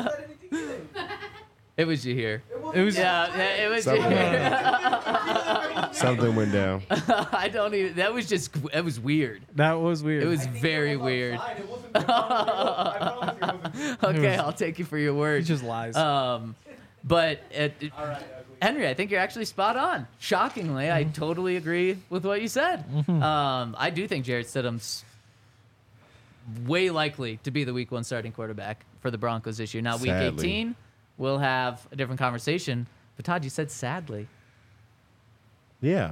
It was you here. It was. Yeah, it was you Something, here. something went down. I don't even. That was just. It was weird. That was weird. It was very weird. Okay, I'll take you for your He word. just lies. But Henry, I think you're actually spot on. Shockingly, I totally agree with what you said. I do think Jarrett Stidham's way likely to be the Week 1 starting quarterback for the Broncos this year. Now, Week Sadly. 18, we'll have a different conversation. But Todd, you said sadly. Yeah.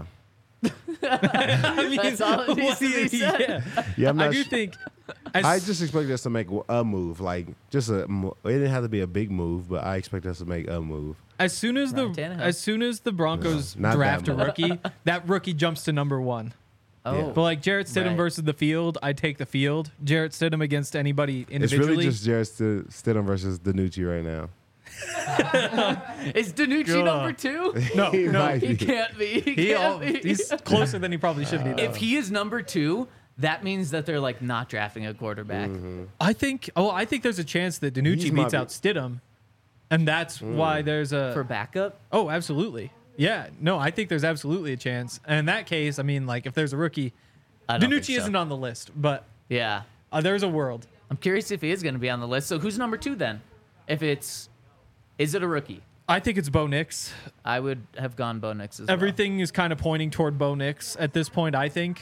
I mean, That's all it needs to be said. yeah. Yeah, I'm I not do sh- think. I just expected us to make a move, like just a. It didn't have to be a big move, but I expect us to make a move. as soon as Ryan Tannehill. the Broncos No, not draft that a rookie, that rookie jumps to number 1. Oh, But like Jarrett Stidham Right. versus the field, I take the field. Jarrett Stidham against anybody It's individually. really just Jarrett Stidham versus Danucci right now. is Danucci God. number 2? no, He no. might He be. can't be. He He can't be. he's closer than he probably should be. Though. If he is number 2, that means that they're like not drafting a quarterback. I think there's a chance that Danucci He's beats my- out Stidham, and that's why there's a For backup? Oh, absolutely. Yeah, no, I think there's absolutely a chance. And in that case, I mean, like if there's a rookie, I don't think Danucci so. isn't on the list, but Yeah. there's a world. I'm curious if he is going to be on the list. So who's number 2 then? Is it a rookie? I think it's Bo Nix. I would have gone Bo Nix as Everything is kind of pointing toward Bo Nix at this point, I think.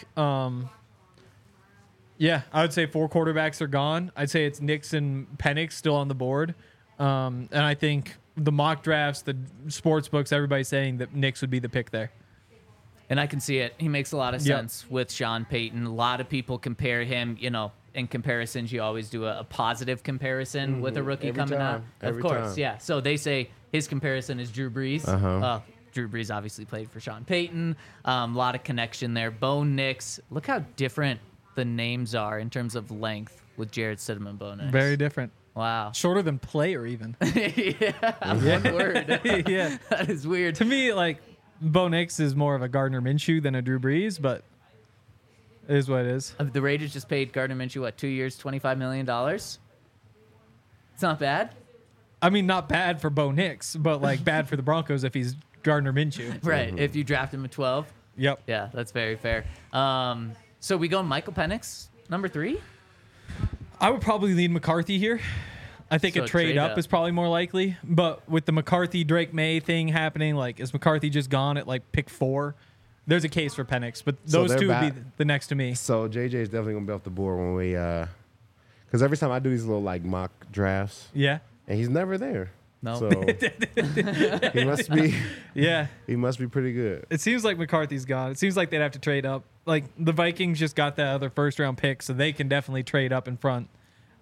Yeah, I would say 4 quarterbacks are gone. I'd say it's Nix and Penix still on the board. And I think the mock drafts, the sports books, everybody's saying that Nix would be the pick there. And I can see it. He makes a lot of Yep. sense with Sean Payton. A lot of people compare him, in comparisons, you always do a positive comparison with a rookie Every coming time. out. Every Of course, time. yeah. So they say his comparison is Drew Brees. Uh-huh. Drew Brees obviously played for Sean Payton. A lot of connection there. Bo Nix. Look how different the names are in terms of length with Jarrett Stidham and Bo Nix. Very different. Wow. Shorter than player, even. One word. Yeah. That is weird. To me, like, Bo Nix is more of a Gardner Minshew than a Drew Brees, but it is what it is. The Raiders just paid Gardner Minshew, 2 years, $25 million? It's not bad. I mean, not bad for Bo Nix, but, like, bad for the Broncos if he's Gardner Minshew. Right. If you draft him at 12. Yep. Yeah, that's very fair. So we go Michael Penix, number 3? I would probably lean McCarthy here. I think So a trade trade up up. is probably more likely. But with the McCarthy Drake May thing happening, like, is McCarthy just gone at like pick 4? There's a case for Penix, but So those they're two would be back. the next to me. So JJ is definitely gonna be off the board when we, because every time I do these little like mock drafts, Yeah. and he's never there. No. So he must be Yeah. pretty good. It seems like McCarthy's gone. It seems like they'd have to trade up. Like the Vikings just got that other first round pick, so they can definitely trade up in front.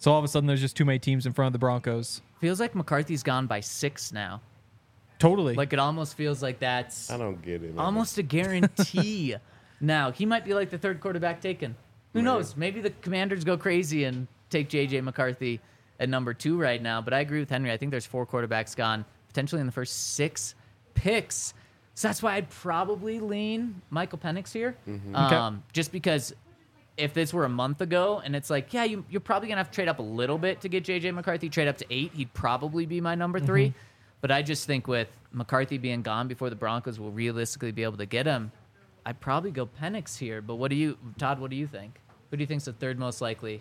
So all of a sudden, there's just too many teams in front of the Broncos. Feels like McCarthy's gone by 6 now. Totally. Like it almost feels like that's I don't get it. Man. almost a guarantee. Now he might be like the third quarterback taken. Who knows? Maybe the Commanders go crazy and take JJ McCarthy at number 2 right now. But I agree with Henry. I think there's 4 quarterbacks gone potentially in the first 6 picks. So that's why I'd probably lean Michael Penix here. Okay. Just because if this were a month ago and it's like, yeah, you're probably going to have to trade up a little bit to get J.J. McCarthy, trade up to 8, he'd probably be my number 3. But I just think with McCarthy being gone before the Broncos will realistically be able to get him, I'd probably go Penix here. But Todd, what do you think? Who do you think's the third most likely?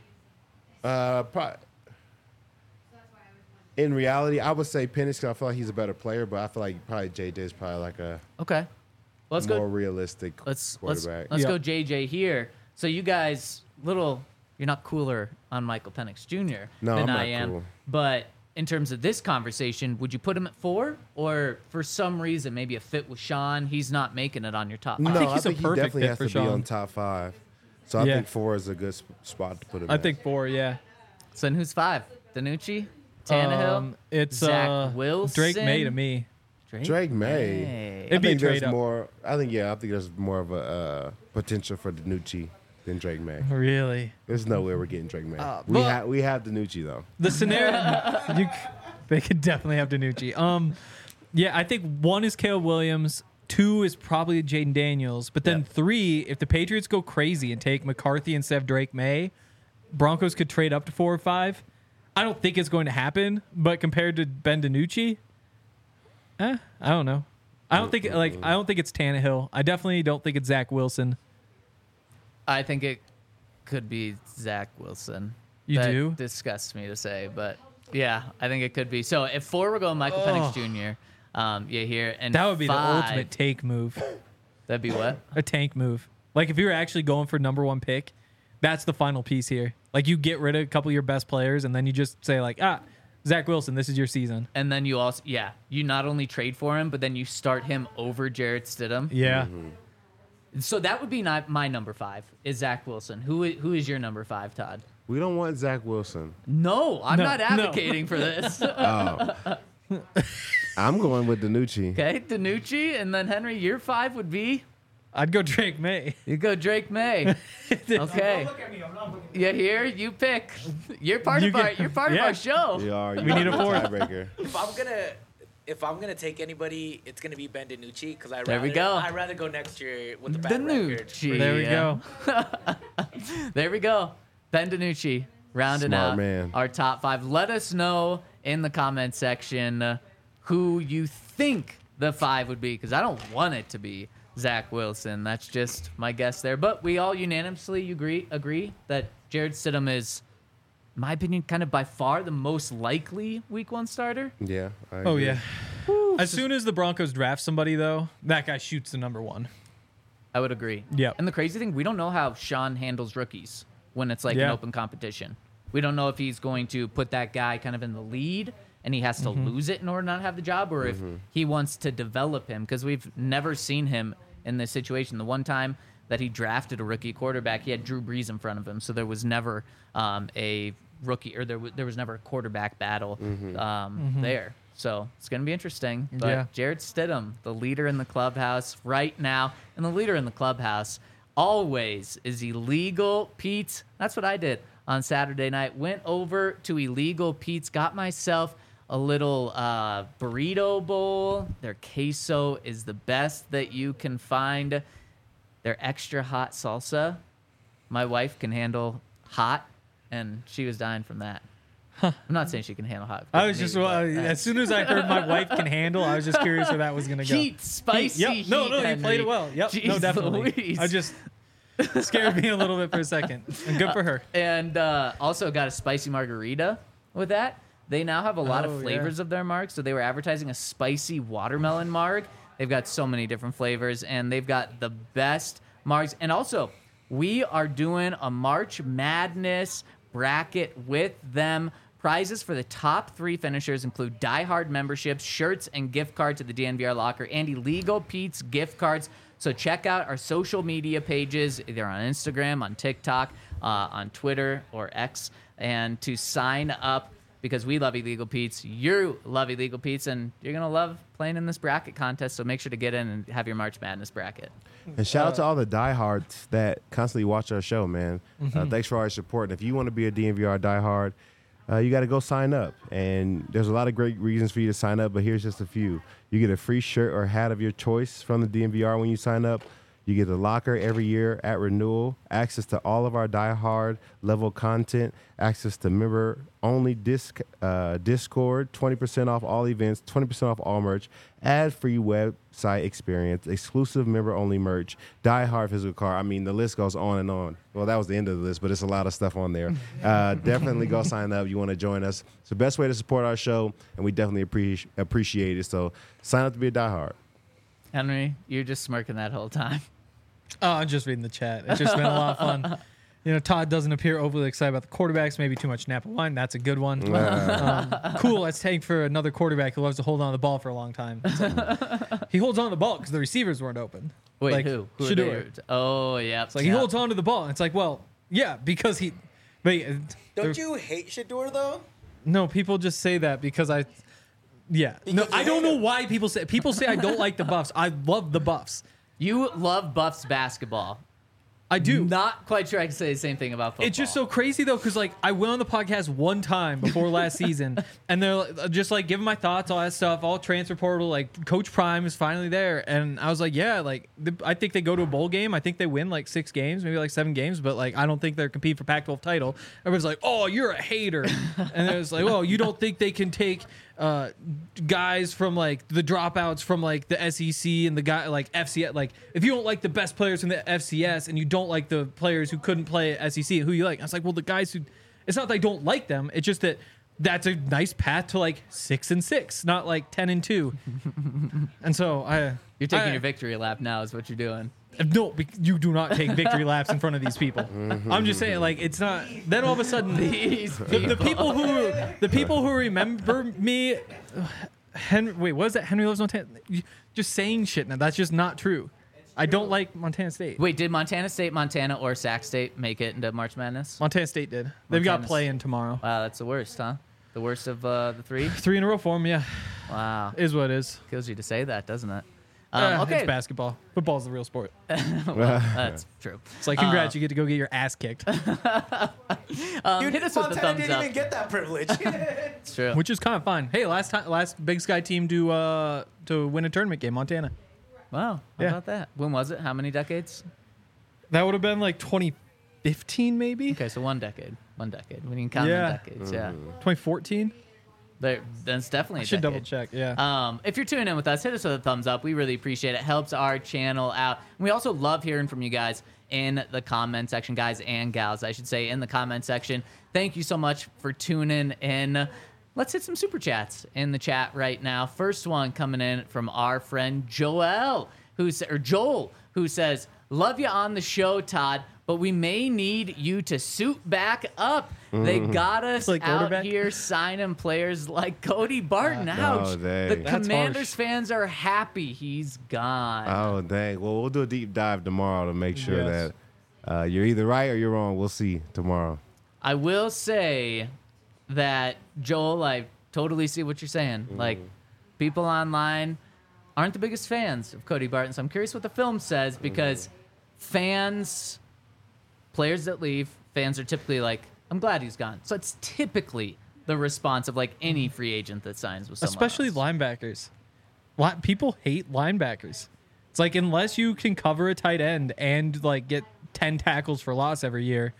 In reality, I would say Penix because I feel like he's a better player, but I feel like probably JJ is probably like a Okay. Let's more go. realistic Let's quarterback. Yeah. go JJ here. So you guys, you're not cooler on Michael Penix Jr. No, than I'm not I am. cool. But in terms of this conversation, would you put him at 4, or for some reason maybe a fit with Sean, he's not making it on your top 5? No, think I he's a think he perfect definitely fit has for to be Sean. on top 5. So I Yeah. think 4 is a good spot to put him. I at. think 4, yeah. So then who's 5? Danucci, Tannehill, It's Zach Wilson, Drake May to me. Drake May. May. It'd be a think there's trade up. more. I think there's more of a potential for Danucci than Drake May. Really? There's no way we're getting Drake May. but- we have Danucci though. The scenario, they could definitely have Danucci. Yeah, I think 1 is Caleb Williams, 2 is probably Jaden Daniels, but then Yeah. 3, if the Patriots go crazy and take McCarthy instead of Drake May, Broncos could trade up to 4 or 5. I don't think it's going to happen, but compared to Ben DiNucci, I don't know. I don't think it's Tannehill. I definitely don't think it's Zach Wilson. I think it could be Zach Wilson. You That do? disgusts me to say, but yeah, I think it could be. So if 4, we're going Michael Penix Jr. Yeah, here and That would be 5, the ultimate take move. That'd be what? A tank move. Like if you were actually going for number 1 pick, that's the final piece here. Like you get rid of a couple of your best players and then you just say like, Zach Wilson, this is your season. And then you also, you not only trade for him, but then you start him over Jarrett Stidham. Yeah. So that would be my number 5 is Zach Wilson. Who is your number 5, Todd? We don't want Zach Wilson. No, I'm No, not no. advocating for this. I'm going with Danucci. Okay, Danucci, and then Henry, your 5 would be. I'd go Drake May. You go Drake May. Okay. You hear? You pick. You're part of our show. We are. We need a fourth. tiebreaker. If I'm gonna take anybody, it's gonna be Ben DiNucci because There we go. I'd rather go next year with the bad record. DiNucci. There we go. There we go. Ben DiNucci rounding Smart out man. our top 5. Let us know in the comment section who you think the 5 would be, because I don't want it to be Zach Wilson. That's just my guess there. But we all unanimously agree that Jarrett Stidham is, in my opinion, kind of by far the most likely Week 1 starter. Yeah. I Oh, agree. yeah. As soon as the Broncos draft somebody, though, that guy shoots the number 1. I would agree. Yep. And the crazy thing, we don't know how Sean handles rookies when it's like an Yeah. open competition. We don't know if he's going to put that guy kind of in the lead and he has to lose it in order to not have the job, or if he wants to develop him, because we've never seen him in this situation. The one time that he drafted a rookie quarterback, he had Drew Brees in front of him, so there was never a rookie, or there was never a quarterback battle there. So it's going to be interesting. But Yeah. Jarrett Stidham, the leader in the clubhouse right now, and the leader in the clubhouse always is Illegal Pete's. That's what I did on Saturday night. Went over to Illegal Pete's, got myself a little burrito bowl. Their queso is the best that you can find. Their extra hot salsa, my wife can handle hot, and she was dying from that. I'm not saying she can handle hot. I was just, as soon as I heard my wife can handle, I was just curious where that was going to go. Heat, spicy Yep. No, heat, you played it well. Yep. Jeez No, definitely. Louise. I just scared me a little bit for a second. And good for her. And also got a spicy margarita with that. They now have a lot Oh, of yeah. flavors of their marg. So they were advertising a spicy watermelon marg. They've got so many different flavors, and they've got the best margs. And also, we are doing a March Madness bracket with them. Prizes for the top 3 finishers include Die Hard memberships, shirts, and gift cards to the DNVR locker, and Illegal Pete's gift cards. So check out our social media pages, either on Instagram, on TikTok, on Twitter, or X. and to sign up because we love Illegal Pete's. You love Illegal Pete's, and you're going to love playing in this bracket contest. So make sure to get in and have your March Madness bracket. And shout out to all the diehards that constantly watch our show, man. Thanks for all your support. And if you want to be a DNVR diehard, you got to go sign up. And there's a lot of great reasons for you to sign up, but here's just a few. You get a free shirt or hat of your choice from the DNVR when you sign up. You get a locker every year at renewal, access to all of our diehard level content, access to member-only Discord, 20% off all events, 20% off all merch, ad-free website experience, exclusive member-only merch, diehard physical card. I mean, the list goes on and on. Well, that was the end of the list, but it's a lot of stuff on there. Definitely go sign up. You want to join us. It's the best way to support our show, and we definitely appreciate it. So sign up to be a diehard. Henry, you're just smirking that whole time. Oh, I'm just reading the chat. It's just been a lot of fun. You know, Todd doesn't appear overly excited about the quarterbacks. Maybe too much Napa wine. That's a good one. Cool. Let's take for another quarterback who loves to hold on to the ball for a long time. He holds on to the ball because the receivers weren't open. Wait, like, who? Who are Shedeur. they? Oh, yeah. It's like he holds on to the ball. It's like, well, yeah, because he. But Don't you hate Shedeur though? No, people just say that because I. Yeah. No, Because I you don't hate know him. why people say I don't like the Buffs. I love the Buffs. You love Buffs basketball. I do. Not quite sure I can say the same thing about football. It's just so crazy though, because like I went on the podcast one time before last season, and they're just like giving my thoughts, all that stuff, all transfer portal. Like Coach Prime is finally there, and I was like, yeah, like I think they go to a bowl game. I think they win like 6 games, maybe like 7 games, but like I don't think they're competing for Pac-12 title. Everyone's like, oh, you're a hater, and it was like, well, you don't think they can take guys from like the dropouts from like the SEC and the guy like FCS. Like if you don't like the best players from the FCS and you don't like the players who couldn't play at SEC, who you like? I was like, well, the guys who. It's not that I don't like them. It's just that that's a nice path to like 6-6, not like 10-2. And so You're taking your victory lap now is what you're doing. No, you do not take victory laps in front of these people. I'm just saying, like, it's not. Then all of a sudden, the people who remember me, Henry. Wait, what is that? Henry loves Montana. Just saying shit now. That's just not true. I don't like Montana State. Wait, did Montana State, Montana, or Sac State make it into March Madness? Montana State did. They've got Montana's- play in tomorrow. Wow, that's the worst, huh? The worst of the 3? 3 in a row for them. Yeah, Wow. is what it is. Kills you to say that, doesn't it? It's Okay. basketball. Football's the real sport. Well, that's true. It's like, congrats, you get to go get your ass kicked, Hit us with the Montana thumbs didn't up. even get that privilege. It's true. which is kind of fine. Hey, last Big Sky team to win a tournament game, Montana. Wow. How Yeah. about that? When was it? How many decades? That would have been like 2015, maybe. Okay, so 1 decade. 1 decade. We can count Yeah. the decades. Yeah. 2014. That's definitely I a should double decade. check. Yeah. If you're tuning in with us, hit us with a thumbs up. We really appreciate it. Helps our channel out. And we also love hearing from you guys in the comment section, guys and gals, I should say, in the comment section. Thank you so much for tuning in. Let's hit some super chats in the chat right now. First one coming in from our friend Joel, Joel, who says, "Love you on the show, Todd, but we may need you to suit back up. They got us Like out quarterback? here signing players like Cody Barton. Ouch. Oh, dang. The That's Commanders harsh. fans are happy he's gone." Oh, dang. Well, we'll do a deep dive tomorrow to make sure Yes. that you're either right or you're wrong. We'll see tomorrow. I will say that, Joel, I totally see what you're saying. Like, people online aren't the biggest fans of Cody Barton. So I'm curious what the film says because players that leave, fans are typically like, I'm glad he's gone. So it's typically the response of like any free agent that signs with someone Especially else. linebackers. People hate linebackers. It's like unless you can cover a tight end and like get 10 tackles for loss every year,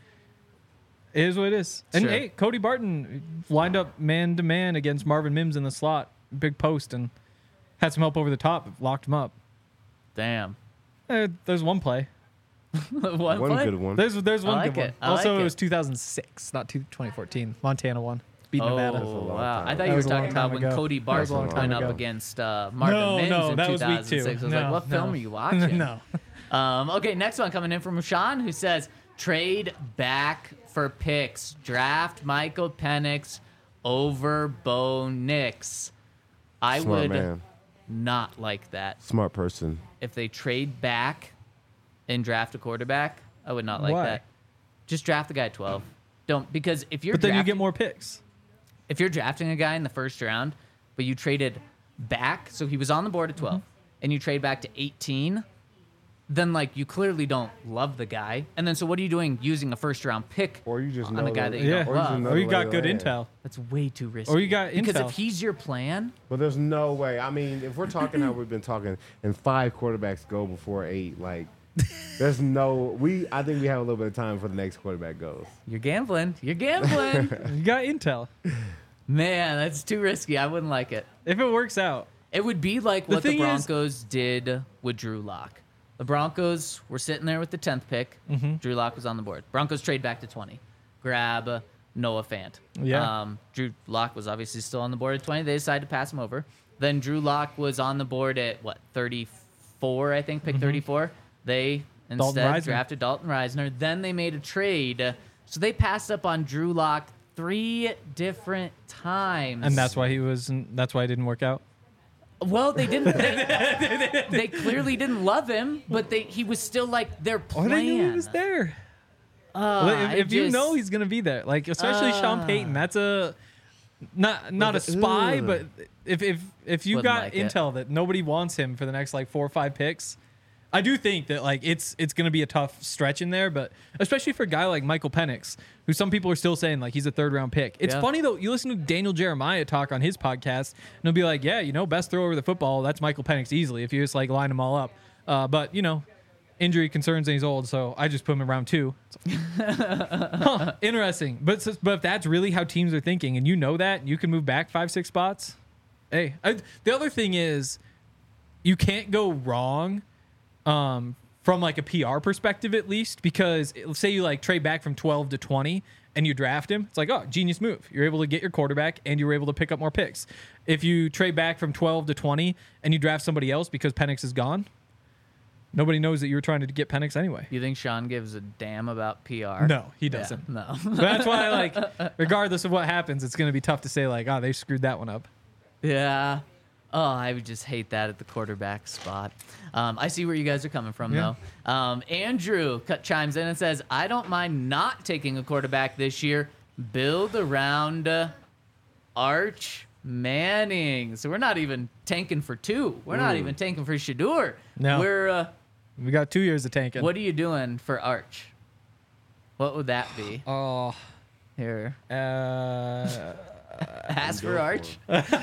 it is what it is. And Sure. hey, Cody Barton lined up man to man against Marvin Mims in the slot, big post, and had some help over the top, locked him up. Damn. There's one play. One One play? good one. There's one like good one. it. I Also, like it was it. 2006, not 2014. Montana won. Beat Nevada. Oh, long wow. time. I thought That you were was a long talking about time when ago. Cody That was a Barton long time went up ago. against Marvin No, Mims no, in that was week 2006. 2. I was like, what film are you watching? No. Okay, next one coming in from Sean, who says, trade back for picks. Draft Michael Penix over Bo Nix. I Smart would man. not like that. Smart person. If they trade back and draft a quarterback, I would not like Why? that. Just draft the guy at 12. don't, because if you're But then you drafting, get more picks. if you're drafting a guy in the first round, but you traded back, so he was on the board at 12, and you trade back to 18, then like you clearly don't love the guy. And then so what are you doing using a first round pick Or you just on know a guy that- that you Yeah. don't Or you just love? know- Or you got Another good way to intel. That's way too risky. Or you got because intel. if he's your plan, But there's no way. I mean, if we're talking how we've been talking, and 5 quarterbacks go before 8, like, there's no. I think we have a little bit of time before the next quarterback goes. you're gambling. You're gambling. You got intel. Man, that's too risky. I wouldn't like it. If it works out. It would be like The what the thing is- Broncos did with Drew Lock. The Broncos were sitting there with the 10th pick. Drew Lock was on the board. Broncos trade back to 20. Grab Noah Fant. Yeah. Drew Lock was obviously still on the board at 20. They decided to pass him over. Then Drew Lock was on the board at, 34, I think, pick 34. They instead Reisner. drafted Dalton Reisner. Then they made a trade. So they passed up on Drew Lock 3 different times. And that's why that's why it didn't work out. Well, they didn't. They clearly didn't love him, but he was still like their Oh, plan. they knew he was there. If you know he's gonna be there, like especially Sean Payton, that's a not a spy, ugh. but if you Wouldn't got like it. intel that nobody wants him for the next like 4 or 5 picks, I do think that like it's gonna be a tough stretch in there, but especially for a guy like Michael Penix, who some people are still saying like he's a 3rd round pick. It's Yeah. funny though, you listen to Daniel Jeremiah talk on his podcast, and he'll be like, yeah, best throw over the football, that's Michael Penix easily if you just like line them all up. But injury concerns and he's old, so I just put him in round 2. Huh, interesting. But if that's really how teams are thinking, and that, you can move back 5-6 spots. Hey, the other thing is, you can't go wrong, from like a PR perspective at least, because say you like trade back from 12 to 20 and you draft him, it's like, oh, genius move. You're able to get your quarterback and you were able to pick up more picks. If you trade back from 12 to 20 and you draft somebody else because Penix is gone, nobody knows that you were trying to get Penix anyway. You think Sean gives a damn about PR? No, he Yeah, doesn't. no. But that's why, regardless of what happens, it's going to be tough to say, oh, they screwed that one up. Yeah. Oh, I would just hate that at the quarterback spot. I see where you guys are coming from, Yeah. though. Andrew chimes in and says, I don't mind not taking a quarterback this year. Build around Arch Manning. So we're not even tanking for 2. We're not even tanking for Shador. No. We're, We got 2 years of tanking. what are you doing for Arch? What would that be? Oh, Here. uh, Ask for Arch.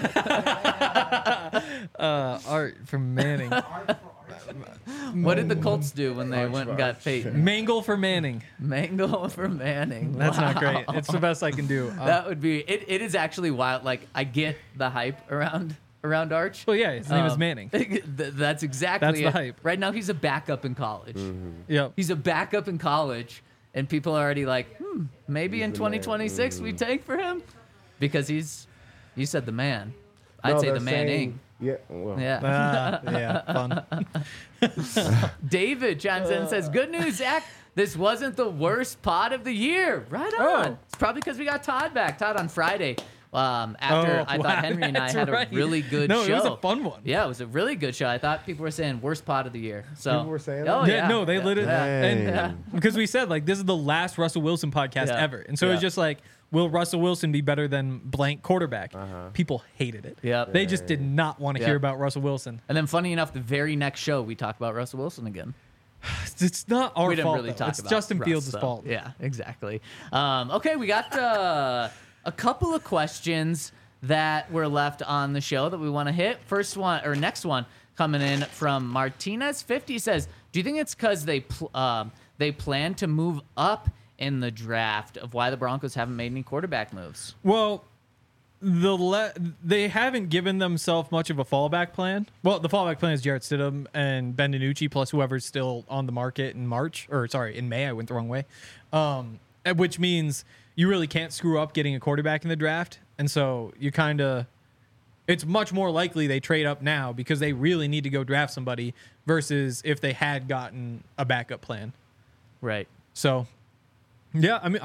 Art from Manning. What did the Colts do when they went and got Peyton? Mangle for Manning. Mango for Manning. That's not Wow. great. It's the best I can do. That would be it is actually wild. Like I get the hype around Arch. well, yeah, his name is Um, Manning. That's exactly That's the it. hype. Right now he's a backup in college. Yep. He's a backup in college, and people are already like, maybe in the man. 2026 we tank for him because you said the man. I'd No, say the they're Manning. saying- Yeah. Well, Yeah. Fun. David chimes in and says, "Good news, Zach. This wasn't the worst pod of the year. Right on. Oh. It's probably because we got Todd back. Todd on Friday. After I thought Henry and I that's had right. a really good No, show. it was a fun one. Yeah, it was a really good show. I thought people were saying worst pod of the year. So People were saying oh that? yeah, No, they yeah. literally, Yeah. and because we said this is the last Russell Wilson podcast Yeah. ever, and so Yeah. it's just will Russell Wilson be better than blank quarterback? People hated it. Yep. They just did not want to Yeah. hear about Russell Wilson. And then, funny enough, the very next show we talked about Russell Wilson again. It's not our We didn't fault. really though. talk It's about Justin Russ, Fields' so, fault. Yeah, exactly. Okay, we got a couple of questions that were left on the show that we want to hit. First one or next one coming in from Martinez 50 says, "Do you think it's because they plan to move up in the draft of why the Broncos haven't made any quarterback moves?" Well, they haven't given themselves much of a fallback plan. Well, the fallback plan is Jarrett Stidham and Ben DiNucci plus whoever's still on the market in in May. I went the wrong way. Which means you really can't screw up getting a quarterback in the draft. And so it's much more likely they trade up now because they really need to go draft somebody versus if they had gotten a backup plan. Right. So, yeah, I mean,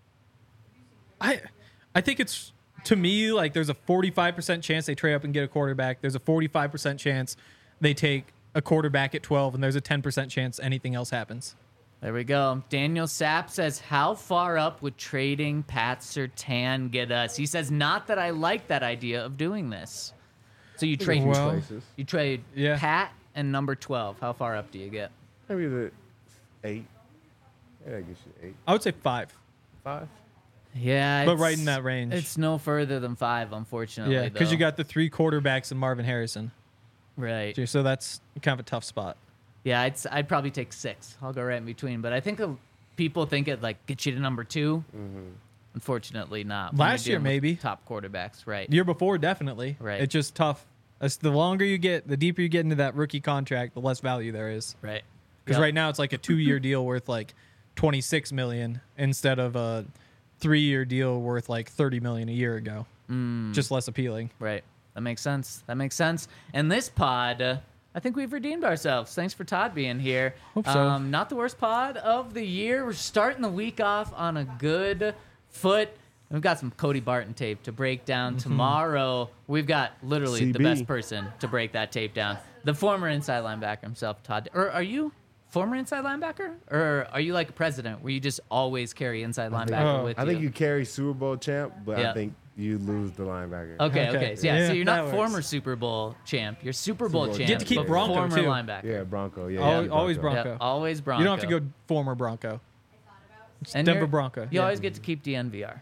I think it's, to me, there's a 45% chance they trade up and get a quarterback. There's a 45% chance they take a quarterback at 12, and there's a 10% chance anything else happens. There we go. Daniel Sapp says, how far up would trading Pat Surtain get us? He says, not that I like that idea of doing this. So you trade Well, Places. you trade Yeah. Pat and number 12. How far up do you get? Maybe the 8. Yeah, I guess you 8. I would say 5. 5. Yeah. But it's- right in that range. It's no further than 5, unfortunately. Yeah, because you though. got the 3 quarterbacks and Marvin Harrison. Right. So that's kind of a tough spot. Yeah, I'd probably take 6. I'll go right in between. But I think people think it like gets you to number 2. Unfortunately, not. when Last you're year, dealing with maybe. top quarterbacks, right? The year before, definitely. Right. It's just tough. The longer you get, the deeper you get into that rookie contract, the less value there is. Right. Because Yep. right now it's like a 2-year deal worth like $26 million instead of a 3-year deal worth like $30 million a year ago. Just less appealing. Right. That makes sense. That makes sense. And this pod, I think we've redeemed ourselves. Thanks for Todd being here. Hope so. Not the worst pod of the year. We're starting the week off on a good foot. We've got some Cody Barton tape to break down tomorrow. We've got literally the CB. best person to break that tape down. The former inside linebacker himself, Todd. Or are you former inside linebacker? Or are you like a president where you just always carry inside linebacker Oh. with I think you? you carry Super Bowl champ, but Yeah. I think you lose the linebacker. Okay. Okay. So, yeah, so Yeah, you're that not works. former Super Bowl champ. You're Super Bowl Bowl champ. Get to keep but Bronco, former too. linebacker. Yeah, Bronco. Yeah, Always yeah, Bronco. Yep, always Bronco. You don't have to go former Bronco. It's And Denver you're- Bronco. You Yeah. always get to keep DNVR.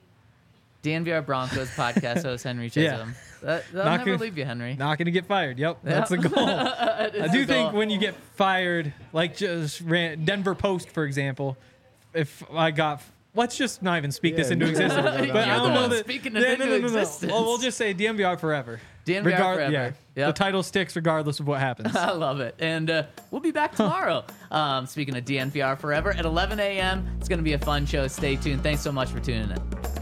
DNVR Broncos podcast host Henry Yeah. Chisholm. They'll Not never gonna- leave you, Henry. Not going to get fired. Yep. That's the goal. I do think when you get fired, like just Denver Post, for example, if I got, let's just not even speak this Yeah, into no, existence. no, no, no. But I You're don't the know one that. speaking it into existence. Well, we'll just say DMVR forever. DNVR forever. Yeah. Yep. The title sticks regardless of what happens. I love it. And we'll be back tomorrow. Speaking of DNVR forever at 11 a.m. It's going to be a fun show. Stay tuned. Thanks so much for tuning in.